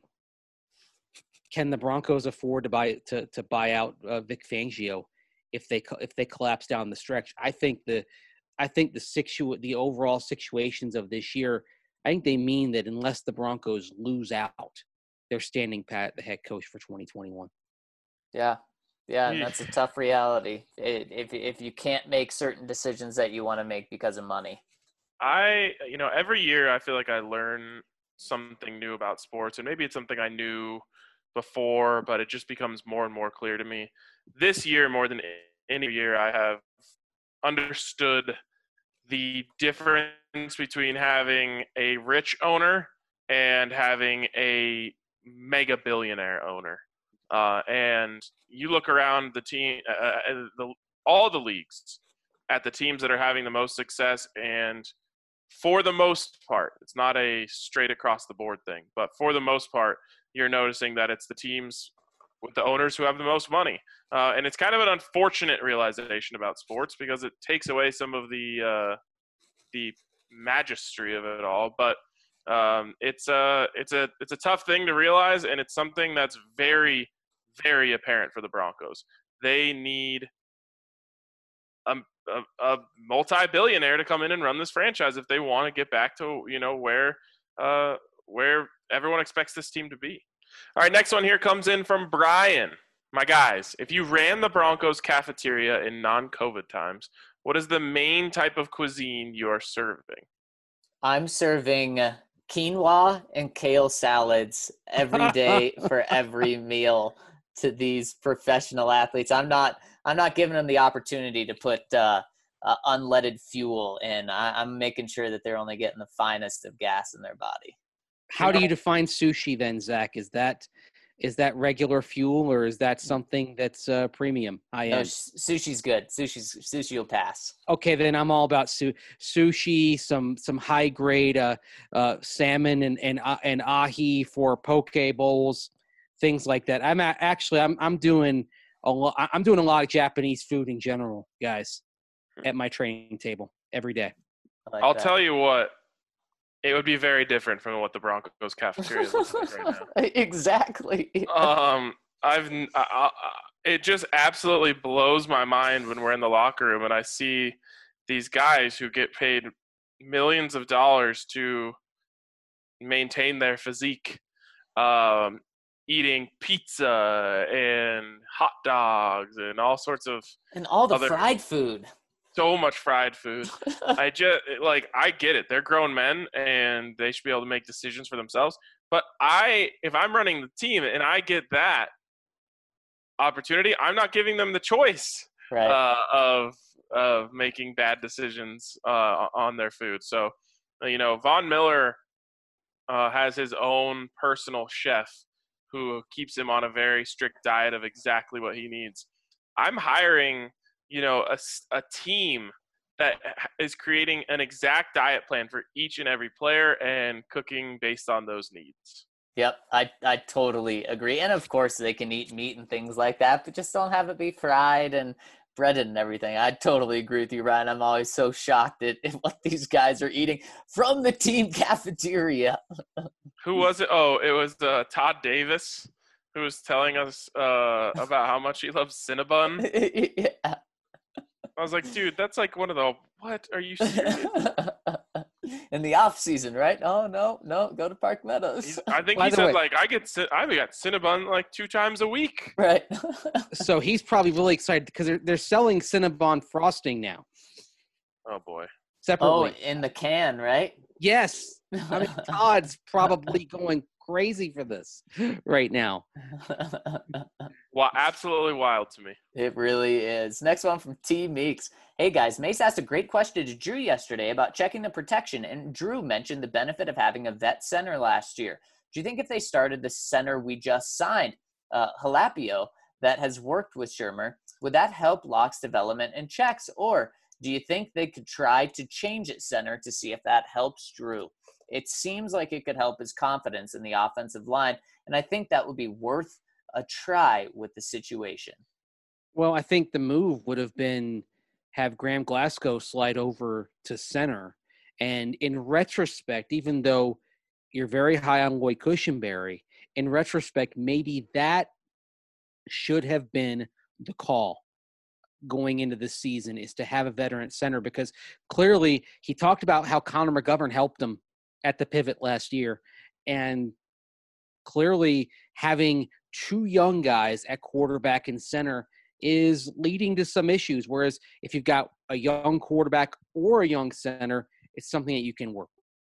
can the Broncos afford to buy out Vic Fangio if they collapse down the stretch? I think the overall situations of this year, I think they mean that unless the Broncos lose out, they're standing pat the head coach for 2021. Yeah, and that's a tough reality if you can't make certain decisions that you want to make because of money. Every year I feel like I learn something new about sports, and maybe it's something I knew before, but it just becomes more and more clear to me. This year, more than any year, I have understood the difference between having a rich owner and having a mega billionaire owner. And you look around the team, all the leagues, at the teams that are having the most success. And for the most part, it's not a straight across the board thing, but for the most part, you're noticing that it's the teams with the owners who have the most money. And it's kind of an unfortunate realization about sports because it takes away some of the magistry of it all. But it's a tough thing to realize, and it's something that's very, very apparent for the Broncos. They need a multi-billionaire to come in and run this franchise if they want to get back to where everyone expects this team to be. All right, next one here comes in from Brian. My guys, if you ran the Broncos cafeteria in non-COVID times, what is the main type of cuisine you are serving? I'm serving quinoa and kale salads every day for every meal to these professional athletes. I'm not giving them the opportunity to put unleaded fuel in. I'm making sure that they're only getting the finest of gas in their body. How do you define sushi then, Zach? Is that regular fuel, or is that something that's premium, high-end? No, sushi's good. Sushi will pass. Okay, then I'm all about sushi, some high-grade salmon and ahi for poke bowls, things like that. I'm doing a lot of Japanese food in general, guys, at my training table every day. I'll tell you what. It would be very different from what the Broncos cafeteria looks like right now. Exactly. It just absolutely blows my mind when we're in the locker room and I see these guys who get paid millions of dollars to maintain their physique, eating pizza and hot dogs and all sorts of and all the fried food. So much fried food. I get it. They're grown men and they should be able to make decisions for themselves. But if I'm running the team and I get that opportunity, I'm not giving them the choice of making bad decisions on their food. So, Von Miller has his own personal chef who keeps him on a very strict diet of exactly what he needs. I'm hiring a team that is creating an exact diet plan for each and every player and cooking based on those needs. Yep, I totally agree. And of course they can eat meat and things like that, but just don't have it be fried and breaded and everything. I totally agree with you, Ryan. I'm always so shocked at what these guys are eating from the team cafeteria. Who was it? Oh, it was Todd Davis who was telling us about how much he loves Cinnabon. Yeah. I was like, dude, that's like one of the, what are you serious? In the off season, right? Oh, no, go to Park Meadows. I think he said, like, I got Cinnabon like 2 times a week. Right. So he's probably really excited because they're selling Cinnabon frosting now. Oh, boy. Separately. Oh, in the can, right? Yes. I mean, Todd's probably going crazy for this right now. Well, absolutely wild to me. It really is. Next one from T Meeks. Hey guys, Mace asked a great question to Drew yesterday about checking the protection, and Drew mentioned the benefit of having a vet center last year. Do you think if they started the center we just signed, Halapio, that has worked with Shurmur, would that help Locke's development and checks? Or do you think they could try to change at center to see if that helps Drew? It seems like it could help his confidence in the offensive line, and I think that would be worth a try with the situation. Well, I think the move would have been have Graham Glasgow slide over to center. And in retrospect, even though you're very high on Lloyd Cushenberry, in retrospect, maybe that should have been the call going into the season, is to have a veteran center, because clearly he talked about how Connor McGovern helped him at the pivot last year. And clearly having 2 young guys at quarterback and center is leading to some issues. Whereas if you've got a young quarterback or a young center, it's something that you can work with.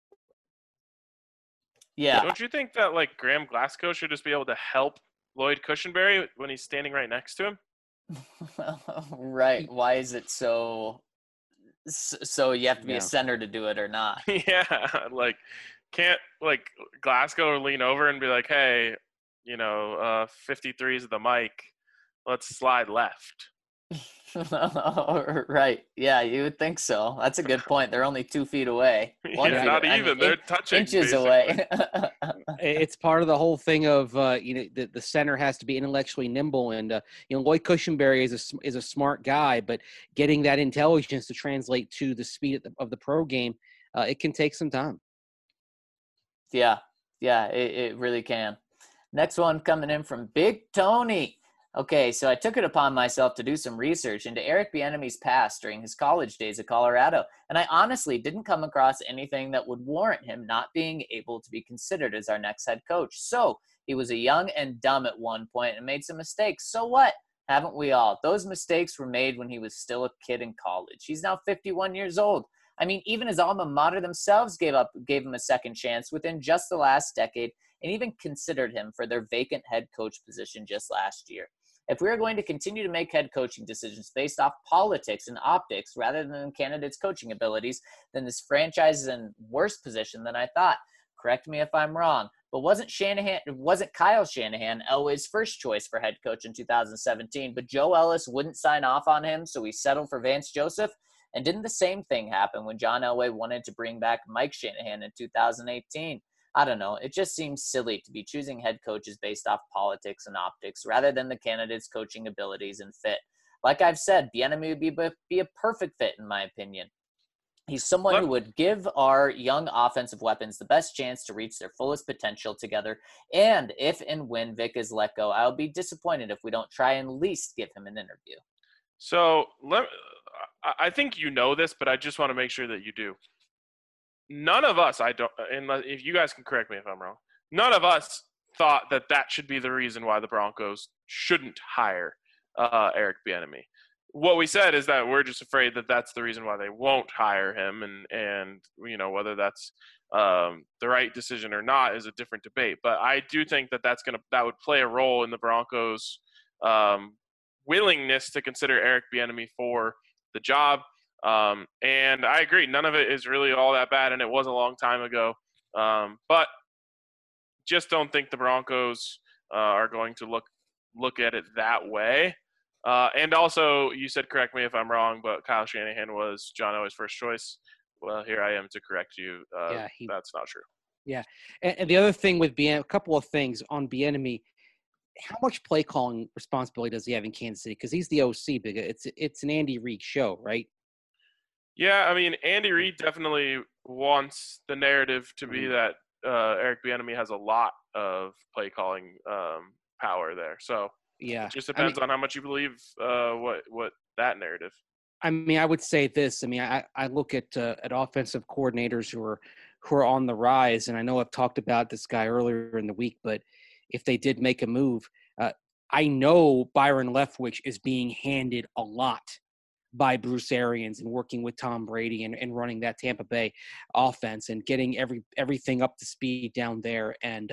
Yeah. Don't you think that like Graham Glasgow should just be able to help Lloyd Cushenberry when he's standing right next to him? Right. Why is it so you have to be a center to do it or not? Yeah. Like, can't like Glasgow lean over and be like, hey, 53 is the mic. Let's slide left. Right. Yeah, you would think so. That's a good point. They're only 2 feet away. Yeah, not even. They're touching inches basically. away. It's part of the whole thing of the center has to be intellectually nimble, and Lloyd Cushenberry is a smart guy, but getting that intelligence to translate to the speed of the pro game, it can take some time. Yeah, it really can. Next one coming in from Big Tony. Okay, so I took it upon myself to do some research into Eric Bieniemy's past during his college days at Colorado, and I honestly didn't come across anything that would warrant him not being able to be considered as our next head coach. So he was a young and dumb at one point and made some mistakes. So what? Haven't we all? Those mistakes were made when he was still a kid in college. He's now 51 years old. I mean, even his alma mater themselves gave him a second chance within just the last decade and even considered him for their vacant head coach position just last year. If we are going to continue to make head coaching decisions based off politics and optics rather than candidates' coaching abilities, then this franchise is in worse position than I thought. Correct me if I'm wrong, but wasn't Kyle Shanahan Elway's first choice for head coach in 2017, but Joe Ellis wouldn't sign off on him, so he settled for Vance Joseph? And didn't the same thing happen when John Elway wanted to bring back Mike Shanahan in 2018? I don't know. It just seems silly to be choosing head coaches based off politics and optics rather than the candidate's coaching abilities and fit. Like I've said, Bieniemy would be a perfect fit in my opinion. He's someone who would give our young offensive weapons the best chance to reach their fullest potential together. And if and when Vic is let go, I'll be disappointed if we don't try and at least give him an interview. So I think you know this, but I just want to make sure that you do. None of us, if you guys can correct me if I'm wrong, none of us thought that should be the reason why the Broncos shouldn't hire Eric Bieniemy. What we said is that we're just afraid that that's the reason why they won't hire him, and whether that's the right decision or not is a different debate. But I do think that would play a role in the Broncos' willingness to consider Eric Bieniemy for the job. And I agree, none of it is really all that bad, and it was a long time ago. But just don't think the Broncos are going to look at it that way. And also, you said, correct me if I'm wrong, but Kyle Shanahan was John Elway's first choice. Well, here I am to correct you. That's not true. Yeah, and the other thing with a couple of things on Bieniemy. How much play calling responsibility does he have in Kansas City? Because he's the OC. It's an Andy Reid show, right? Yeah, I mean, Andy Reid definitely wants the narrative to be that Eric Bieniemy has a lot of play calling power there. So yeah, it just depends on how much you believe what that narrative. I mean, I would say this. I mean, I look at offensive coordinators who are on the rise, and I know I've talked about this guy earlier in the week, but if they did make a move, I know Byron Leftwich is being handed a lot by Bruce Arians and working with Tom Brady and running that Tampa Bay offense and getting everything up to speed down there. And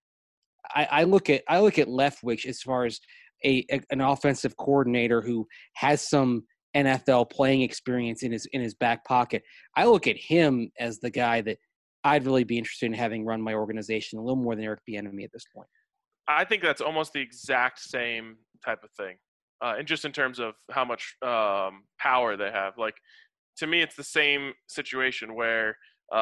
I look at Leftwich as far as an offensive coordinator who has some NFL playing experience in his back pocket. I look at him as the guy that I'd really be interested in having run my organization a little more than Eric Bieniemy at this point. I think that's almost the exact same type of thing. And just in terms of how much power they have. Like, to me, it's the same situation where,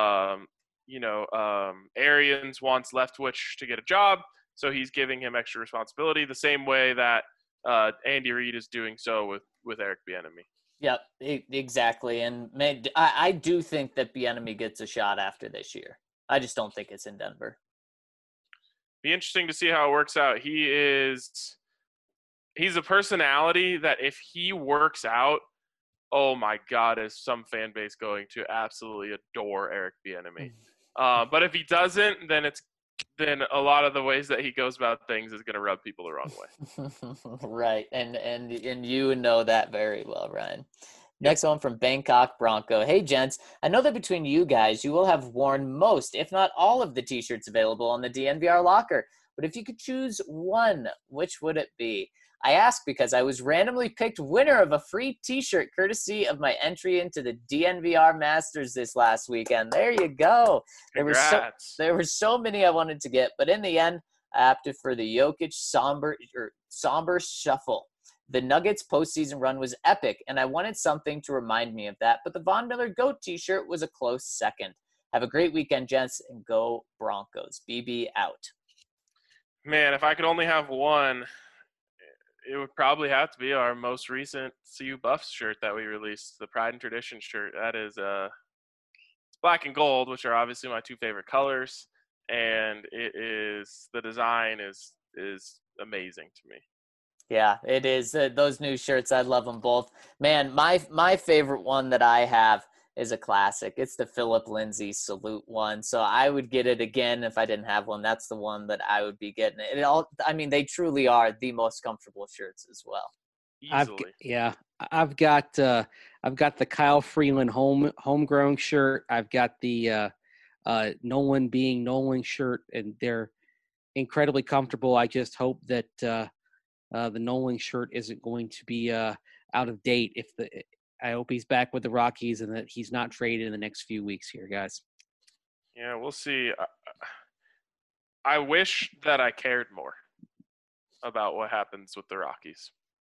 Arians wants Leftwich to get a job, so he's giving him extra responsibility the same way that Andy Reid is doing so with Eric Bieniemy. Yep, exactly. And I do think that Bieniemy gets a shot after this year. I just don't think it's in Denver. Be interesting to see how it works out. He's a personality that if he works out, oh my God, is some fan base going to absolutely adore Eric Bieniemy. But if he doesn't, then a lot of the ways that he goes about things is going to rub people the wrong way. Right, and you know that very well, Ryan. Next one from Bangkok Bronco. Hey, gents, I know that between you guys, you will have worn most, if not all, of the T-shirts available on the DNVR locker. But if you could choose one, which would it be? I ask because I was randomly picked winner of a free T-shirt courtesy of my entry into the DNVR Masters this last weekend. There you go. There were so many I wanted to get, but in the end, I opted for the Jokic somber shuffle. The Nuggets postseason run was epic, and I wanted something to remind me of that, but the Von Miller GOAT t-shirt was a close second. Have a great weekend, gents, and go Broncos. BB out. Man, if I could only have one, it would probably have to be our most recent CU Buffs shirt that we released, the Pride and Tradition shirt. That is it's black and gold, which are obviously my two favorite colors, and the design is amazing to me. Yeah, it is. Those new shirts, I love them both. Man, my favorite one that I have is a classic. It's the Philip Lindsay salute one. So I would get it again if I didn't have one. That's the one that I would be getting. They truly are the most comfortable shirts as well. Easily. I've got the Kyle Freeland homegrown shirt. I've got the Nolan being Nolan shirt, and they're incredibly comfortable. I just hope that the Nolan shirt isn't going to be out of date. I hope he's back with the Rockies and that he's not traded in the next few weeks here, guys. Yeah, we'll see. I wish that I cared more about what happens with the Rockies.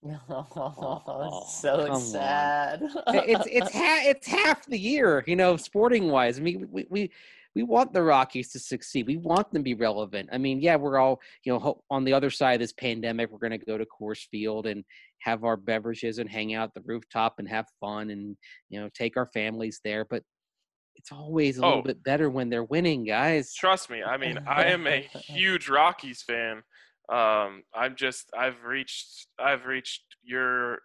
So sad. It's half the year, sporting wise. I mean, we want the Rockies to succeed. We want them to be relevant. I mean, yeah, we're all, on the other side of this pandemic, we're going to go to Coors Field and have our beverages and hang out at the rooftop and have fun and, take our families there. But it's always a little bit better when they're winning, guys. Trust me. I mean, I am a huge Rockies fan. I've reached your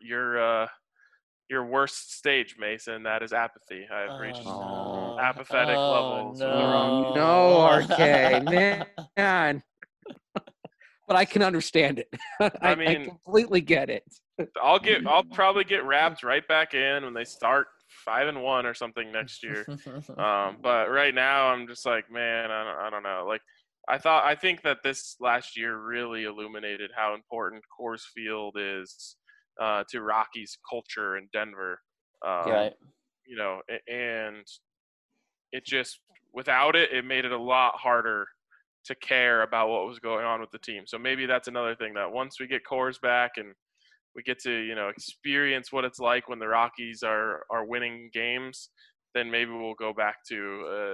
worst stage, Mason. That is apathy. I've reached apathetic levels. No, RK, man. But I can understand it. I completely get it. I'll probably get wrapped right back in when they start 5-1 or something next year. But right now I'm just like, man, I don't know. Like I think that this last year really illuminated how important Coors Field is to Rockies culture in Denver. Right. And it just, without it, it made it a lot harder to care about what was going on with the team. So maybe that's another thing, that once we get Coors back and we get to, experience what it's like when the Rockies are winning games, then maybe we'll go back to,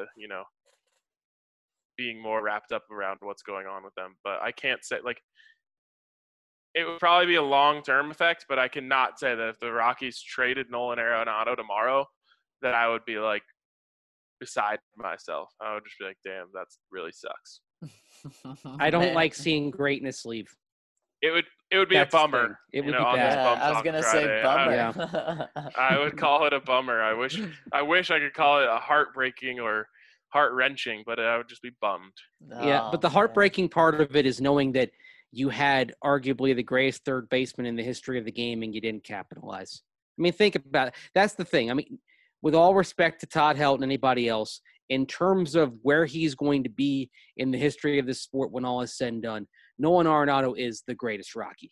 being more wrapped up around what's going on with them. But I can't say, it would probably be a long-term effect, but I cannot say that if the Rockies traded Nolan Arenado tomorrow, that I would be beside myself. I would just be like, damn, that really sucks. I don't like seeing greatness leave. It would be a bummer. It would be bad. I was gonna say bummer. I would call it a bummer. I wish I could call it a heartbreaking or heart-wrenching, but I would just be bummed. Yeah, but the heartbreaking part of it is knowing that you had arguably the greatest third baseman in the history of the game and you didn't capitalize. I mean, think about it. That's the thing. I mean, with all respect to Todd Helton and anybody else, in terms of where he's going to be in the history of this sport when all is said and done, Nolan Arenado is the greatest Rocky.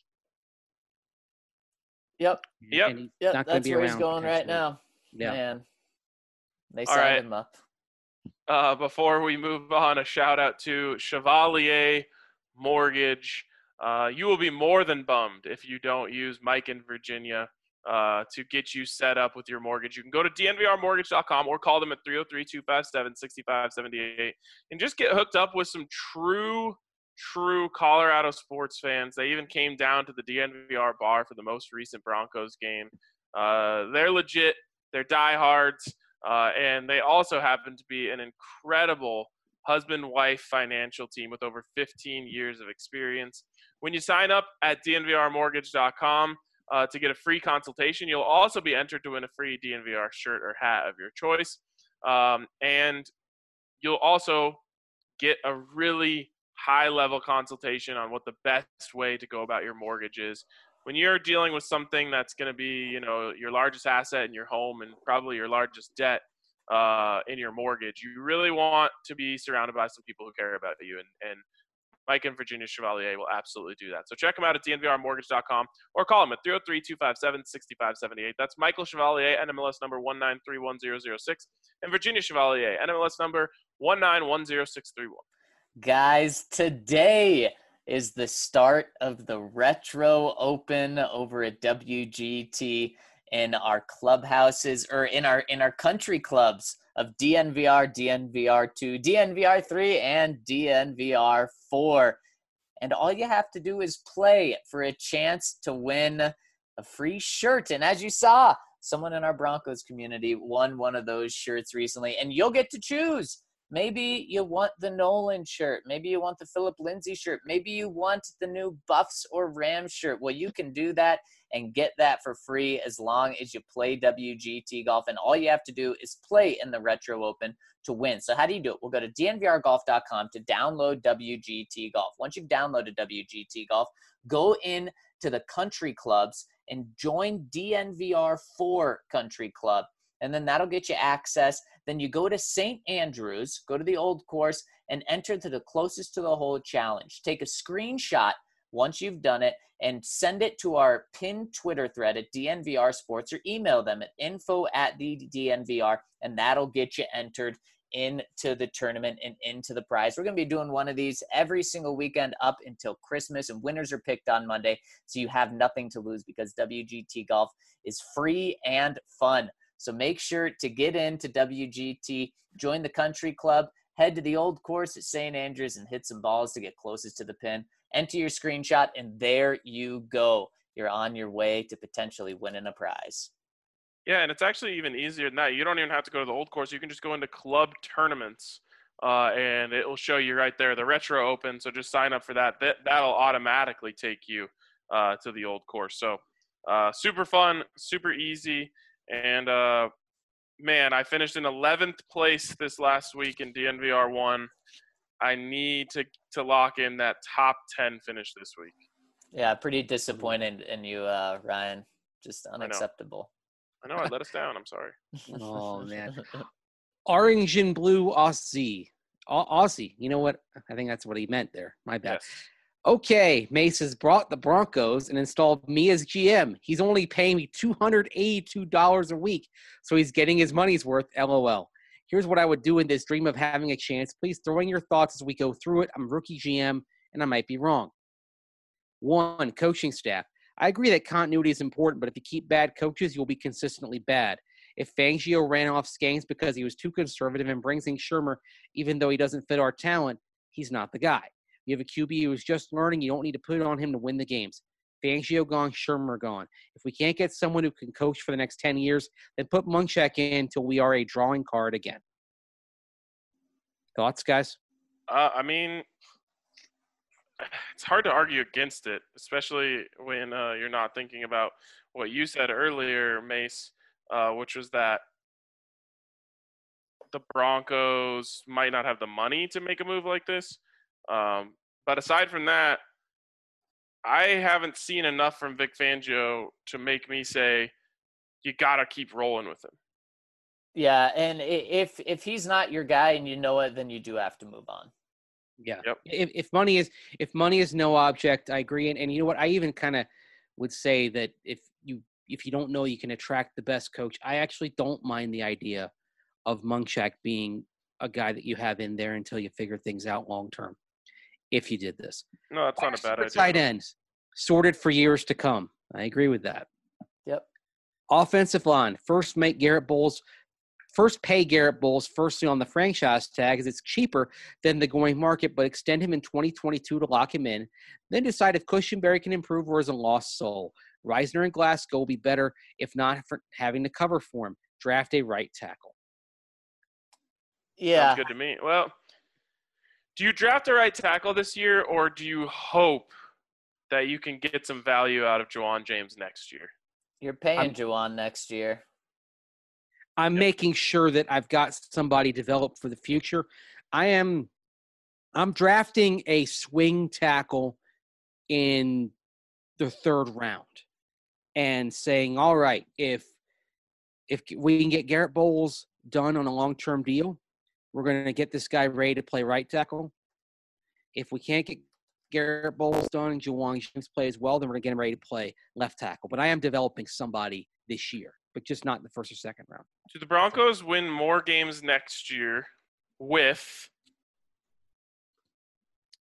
Yep. That's where he's going right now. Yeah. Man, they signed him up. Before we move on, a shout out to Chevalier Mortgage. You will be more than bummed if you don't use Mike in Virginia to get you set up with your mortgage. You can go to dnvrmortgage.com or call them at 303-257-6578 and just get hooked up with some true Colorado sports fans. They even came down to the DNVR bar for the most recent Broncos game. They're legit. They're diehards. And they also happen to be an incredible husband-wife financial team with over 15 years of experience. When you sign up at dnvrmortgage.com to get a free consultation, you'll also be entered to win a free DNVR shirt or hat of your choice. And you'll also get a really high-level consultation on what the best way to go about your mortgage is. When you're dealing with something that's going to be, your largest asset in your home and probably your largest debt in your mortgage, you really want to be surrounded by some people who care about you. And Mike and Virginia Chevalier will absolutely do that. So check them out at dnvrmortgage.com or call them at 303-257-6578. That's Michael Chevalier, NMLS number 1931006, and Virginia Chevalier, NMLS number 1910631. Guys, today is the start of the Retro Open over at WGT in our clubhouses, or in our country clubs of DNVR, DNVR2, DNVR3, and DNVR4. And all you have to do is play for a chance to win a free shirt. And as you saw, someone in our Broncos community won one of those shirts recently, and you'll get to choose. Maybe you want the Nolan shirt. Maybe you want the Philip Lindsay shirt. Maybe you want the new Buffs or Rams shirt. Well, you can do that and get that for free as long as you play WGT Golf. And all you have to do is play in the Retro Open to win. So how do you do it? We'll go to dnvrgolf.com to download WGT Golf. Once you've downloaded WGT Golf, go in to the country clubs and join DNVR4 Country Club. And then that'll get you access. Then you go to St. Andrews, go to the old course, and enter to the closest to the hole challenge. Take a screenshot once you've done it and send it to our pinned Twitter thread at DNVR Sports, or email them at info@DNVR, and that'll get you entered into the tournament and into the prize. We're going to be doing one of these every single weekend up until Christmas, and winners are picked on Monday, so you have nothing to lose because WGT Golf is free and fun. So make sure to get into WGT, join the country club, head to the old course at St. Andrews and hit some balls to get closest to the pin. Enter your screenshot, and there you go. You're on your way to potentially winning a prize. Yeah, and it's actually even easier than that. You don't even have to go to the old course. You can just go into club tournaments, and it will show you right there, the Retro Open. So just sign up for that. That'll automatically take you to the old course. So super fun, super easy. And, man, I finished in 11th place this last week in DNVR1. I need to lock in that top 10 finish this week. Yeah, pretty disappointed in you, Ryan. Just unacceptable. I know I let us down. I'm sorry. Oh, man. Orange and blue Aussie. Aussie. You know what? I think that's what he meant there. My bad. Yes. Okay, Mace has brought the Broncos and installed me as GM. He's only paying me $282 a week, so he's getting his money's worth, LOL. Here's what I would do in this dream of having a chance. Please throw in your thoughts as we go through it. I'm rookie GM, and I might be wrong. 1, coaching staff. I agree that continuity is important, but if you keep bad coaches, you'll be consistently bad. If Fangio ran off Skanks because he was too conservative and brings in Shermer, even though he doesn't fit our talent, he's not the guy. You have a QB who's just learning. You don't need to put it on him to win the games. Fangio gone, Shermer gone. If we can't get someone who can coach for the next 10 years, then put Munchak in until we are a drawing card again. Thoughts, guys? I mean, it's hard to argue against it, especially when you're not thinking about what you said earlier, Mace, which was that the Broncos might not have the money to make a move like this. But aside from that, I haven't seen enough from Vic Fangio to make me say you got to keep rolling with him. Yeah, and if he's not your guy and you know it, then you do have to move on. Yeah. Yep. If money is no object, I agree. And you know what? I even kind of would say that if you don't know you can attract the best coach, I actually don't mind the idea of Munchak being a guy that you have in there until you figure things out long term. If you did this. No, that's not a bad idea. Tight ends sorted for years to come. I agree with that. Yep. Offensive line. First pay Garrett Bowles firstly on the franchise tag as it's cheaper than the going market, but extend him in 2022 to lock him in. Then decide if Cushenberry can improve or is a lost soul. Reisner and Glasgow will be better if not for having to cover for him. Draft a right tackle. Yeah. Sounds good to me. Well, do you draft a right tackle this year, or do you hope that you can get some value out of Juwan James next year? You're paying Juwan next year. I'm making sure that I've got somebody developed for the future. I'm drafting a swing tackle in the 3rd round and saying, all right, if we can get Garrett Bowles done on a long-term deal, we're going to get this guy ready to play right tackle. If we can't get Garrett Bowles done and Juwan James plays well, then we're going to get him ready to play left tackle. But I am developing somebody this year, but just not in the 1st or 2nd round. Do the Broncos win more games next year with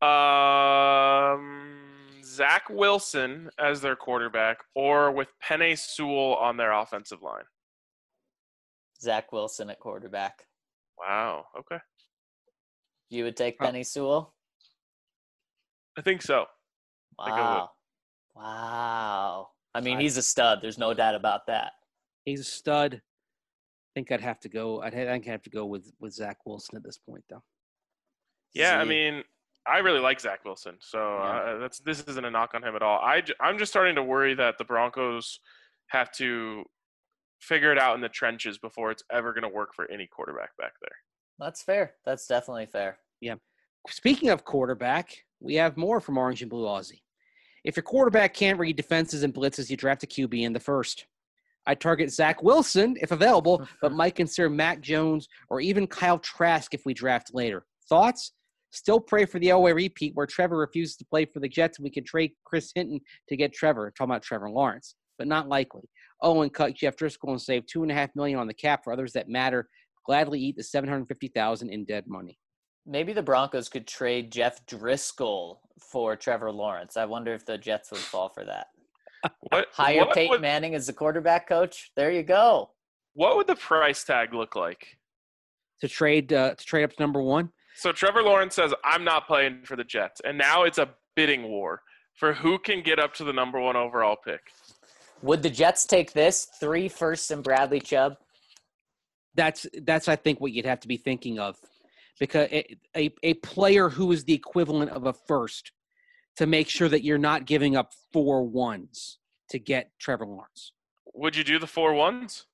Zach Wilson as their quarterback, or with Penei Sewell on their offensive line. Zach Wilson at quarterback. Wow. Okay. You would take Penei Sewell? I think so. Wow. Wow. I mean, he's a stud. There's no doubt about that. He's a stud. I think I'd have to go. I think I'd have to go with Zach Wilson at this point, though. Yeah, I mean, I really like Zach Wilson, so this isn't a knock on him at all. I'm just starting to worry that the Broncos have to figure it out in the trenches before it's ever going to work for any quarterback back there. That's fair. That's definitely fair. Yeah. Speaking of quarterback, we have more from Orange and Blue Aussie. If your quarterback can't read defenses and blitzes, you draft a QB in the first. I target Zach Wilson if available, but might consider Mac Jones or even Kyle Trask if we draft later. Thoughts? Still pray for the Elway repeat where Trevor refuses to play for the Jets and we can trade Chris Hinton to get Trevor. I'm talking about Trevor Lawrence, but not likely. Oh, and cut Jeff Driscoll and save $2.5 million on the cap for others that matter. Gladly eat the $750,000 in dead money. Maybe the Broncos could trade Jeff Driscoll for Trevor Lawrence. I wonder if the Jets would fall for that. Hire Peyton Manning as the quarterback coach. There you go. What would the price tag look like to trade up to number one? So Trevor Lawrence says, "I'm not playing for the Jets," and now it's a bidding war for who can get up to the number one overall pick. Would the Jets take this 3 firsts and Bradley Chubb? That's I think what you'd have to be thinking of, because a player who is the equivalent of a first to make sure that you're not giving up 4 ones to get Trevor Lawrence. Would you do the 4 ones?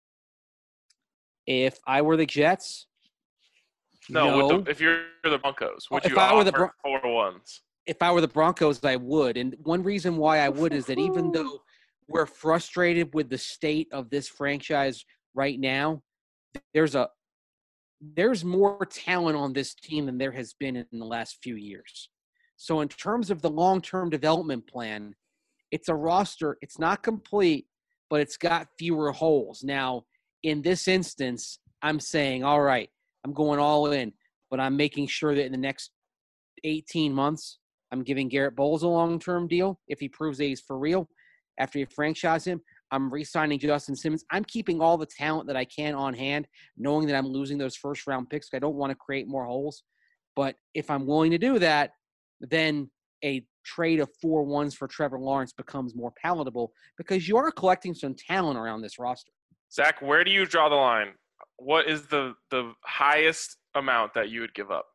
If I were the Jets, no. If you're the Broncos, would you offer 4 ones? If I were the Broncos, I would. And one reason why I would is that even though we're frustrated with the state of this franchise right now, there's more talent on this team than there has been in the last few years. So in terms of the long-term development plan, it's a roster. It's not complete, but it's got fewer holes. Now, in this instance, I'm saying, all right, I'm going all in, but I'm making sure that in the next 18 months, I'm giving Garrett Bowles a long-term deal if he proves that he's for real. After you franchise him, I'm re-signing Justin Simmons. I'm keeping all the talent that I can on hand, knowing that I'm losing those first-round picks. I don't want to create more holes. But if I'm willing to do that, then a trade of 4 ones for Trevor Lawrence becomes more palatable because you are collecting some talent around this roster. Zach, where do you draw the line? What is the highest amount that you would give up?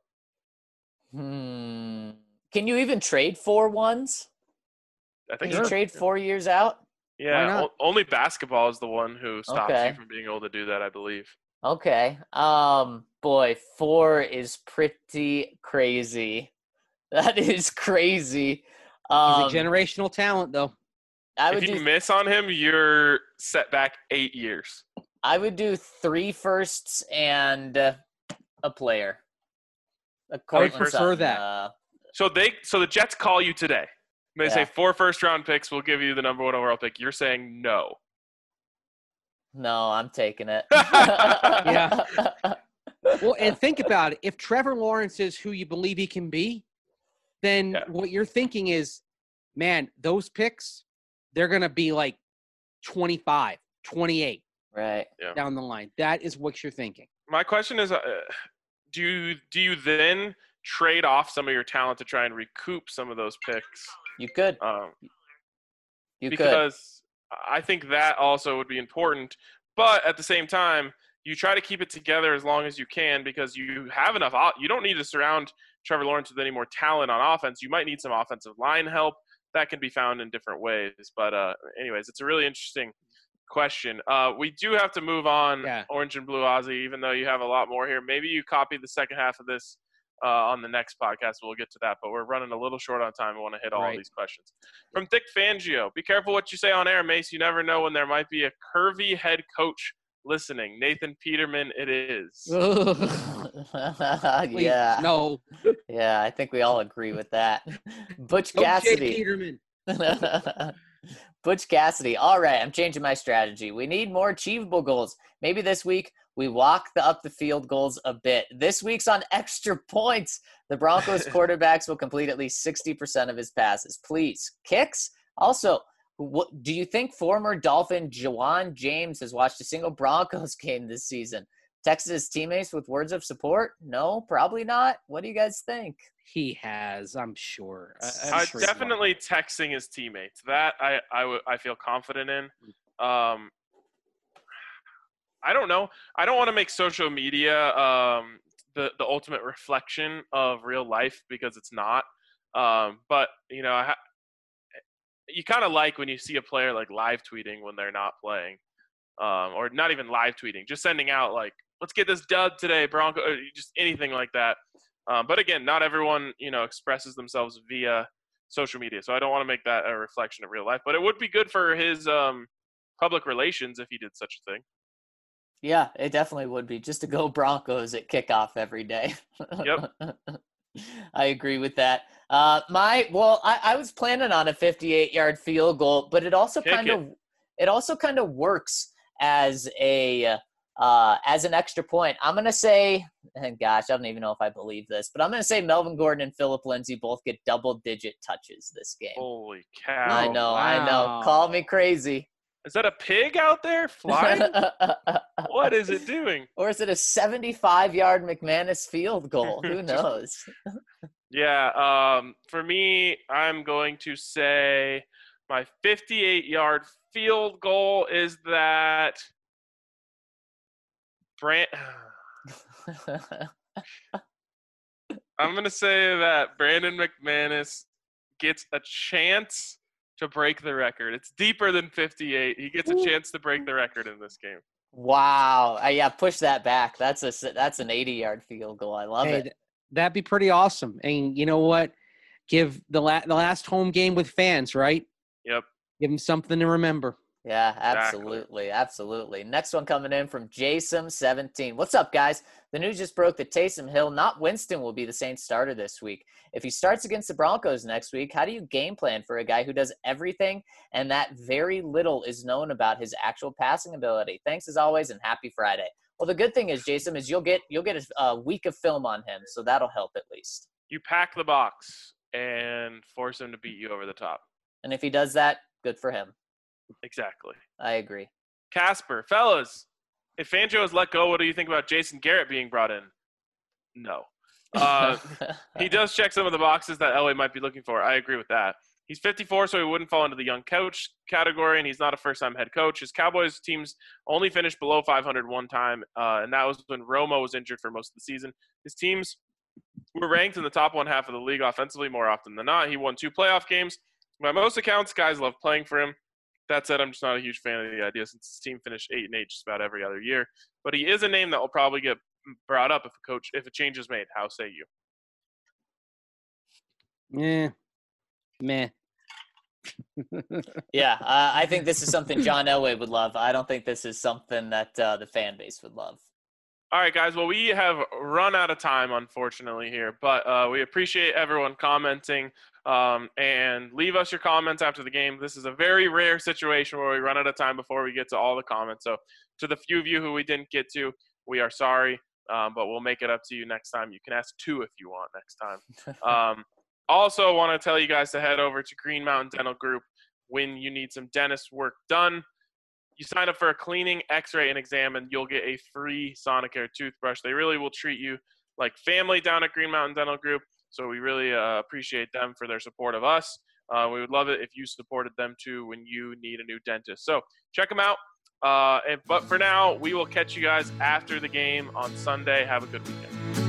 Can you even trade 4 ones? I think Can you trade 4 years out? Yeah, only basketball is the one who stops you from being able to do that, I believe. Okay. Boy, 4 is pretty crazy. That is crazy. He's a generational talent, though. If you miss on him, you're set back 8 years. I would do 3 firsts and a player. I would prefer that. So the Jets call you today. They say 4 first-round picks will give you the number 1 overall pick. You're saying no. No, I'm taking it. Yeah. Well, and think about it. If Trevor Lawrence is who you believe he can be, then what you're thinking is, man, those picks, they're going to be like 25, 28 down the line. That is what you're thinking. My question is, do you then trade off some of your talent to try and recoup some of those picks? You could. Because I think that also would be important. But at the same time, you try to keep it together as long as you can because you have enough. You don't need to surround Trevor Lawrence with any more talent on offense. You might need some offensive line help. That can be found in different ways. But anyways, it's a really interesting question. We do have to move on, Orange and Blue Aussie, even though you have a lot more here. Maybe you copy the second half of this on the next podcast. We'll get to that, but we're running a little short on time. We want to hit all of these questions. From Thick Fangio, be careful what you say on air, Mace. You never know when there might be a curvy head coach listening. Nathan Peterman, it is. Yeah. No. Yeah, I think we all agree with that. Butch Cassidy. Peterman. Butch Cassidy. All right, I'm changing my strategy. We need more achievable goals. Maybe this week we walk up the field goals a bit. This week's on extra points. The Broncos quarterbacks will complete at least 60% of his passes. Please. Kicks? Also, do you think former Dolphin Jawan James has watched a single Broncos game this season? Texted his teammates with words of support? No, probably not. What do you guys think? He has, I'm sure. I'm sure definitely texting his teammates. That I feel confident in. I don't know. I don't want to make social media the ultimate reflection of real life because it's not. But you know, you kind of like when you see a player like live tweeting when they're not playing, or not even live tweeting, just sending out like, "Let's get this dub today, Bronco," or just anything like that. But again, not everyone, expresses themselves via social media. So I don't want to make that a reflection of real life. But it would be good for his public relations if he did such a thing. Yeah, it definitely would be. Just to go Broncos at kickoff every day. Yep. I agree with that. I was planning on a 58-yard field goal, but it also kind of works as an extra point. I'm going to say, and gosh, I don't even know if I believe this, but I'm going to say Melvin Gordon and Phillip Lindsay both get double-digit touches this game. Holy cow. I know. Call me crazy. Is that a pig out there flying? What is it doing? Or is it a 75-yard McManus field goal? Who knows? Yeah, for me, I'm going to say my 58-yard field goal is that I'm going to say that Brandon McManus gets a chance to break the record. It's deeper than 58. He gets a chance to break the record in this game. Wow. Yeah, push that back. That's an 80-yard field goal. I love it. That'd be pretty awesome. And you know what? Give the last home game with fans, right? Yep. Give them something to remember. Yeah, absolutely. Absolutely. Next one coming in from Jason17. What's up, guys? The news just broke that Taysom Hill, not Winston, will be the Saints starter this week. If he starts against the Broncos next week, how do you game plan for a guy who does everything and that very little is known about his actual passing ability? Thanks as always, and happy Friday. Well, the good thing is, Jason, is you'll get a week of film on him, so that'll help at least. You pack the box and force him to beat you over the top. And if he does that, good for him. Exactly. I agree. Casper, fellas, if Fangio is let go, what do you think about Jason Garrett being brought in? No. He does check some of the boxes that Elway might be looking for. I agree with that. He's 54, so he wouldn't fall into the young coach category, and he's not a first-time head coach. His Cowboys teams only finished below 500 one time, and that was when Romo was injured for most of the season. His teams were ranked in the top one half of the league offensively more often than not. He won 2 playoff games. By most accounts, guys love playing for him. That said, I'm just not a huge fan of the idea since his team finished 8-8 just about every other year. But he is a name that will probably get brought up if a change is made. How say you? Yeah. Meh. Yeah, I think this is something John Elway would love. I don't think this is something that the fan base would love. All right, guys. Well, we have run out of time, unfortunately, here. But we appreciate everyone commenting. And leave us your comments after the game. This is a very rare situation where we run out of time before we get to all the comments. So to the few of you who we didn't get to, we are sorry, but we'll make it up to you next time. You can ask 2 if you want next time. Also want to tell you guys to head over to Green Mountain Dental Group when you need some dentist work done. You sign up for a cleaning, x-ray, and exam, and you'll get a free Sonicare toothbrush. They really will treat you like family down at Green Mountain Dental Group. So we really appreciate them for their support of us. We would love it if you supported them too when you need a new dentist. So check them out. But for now, we will catch you guys after the game on Sunday. Have a good weekend.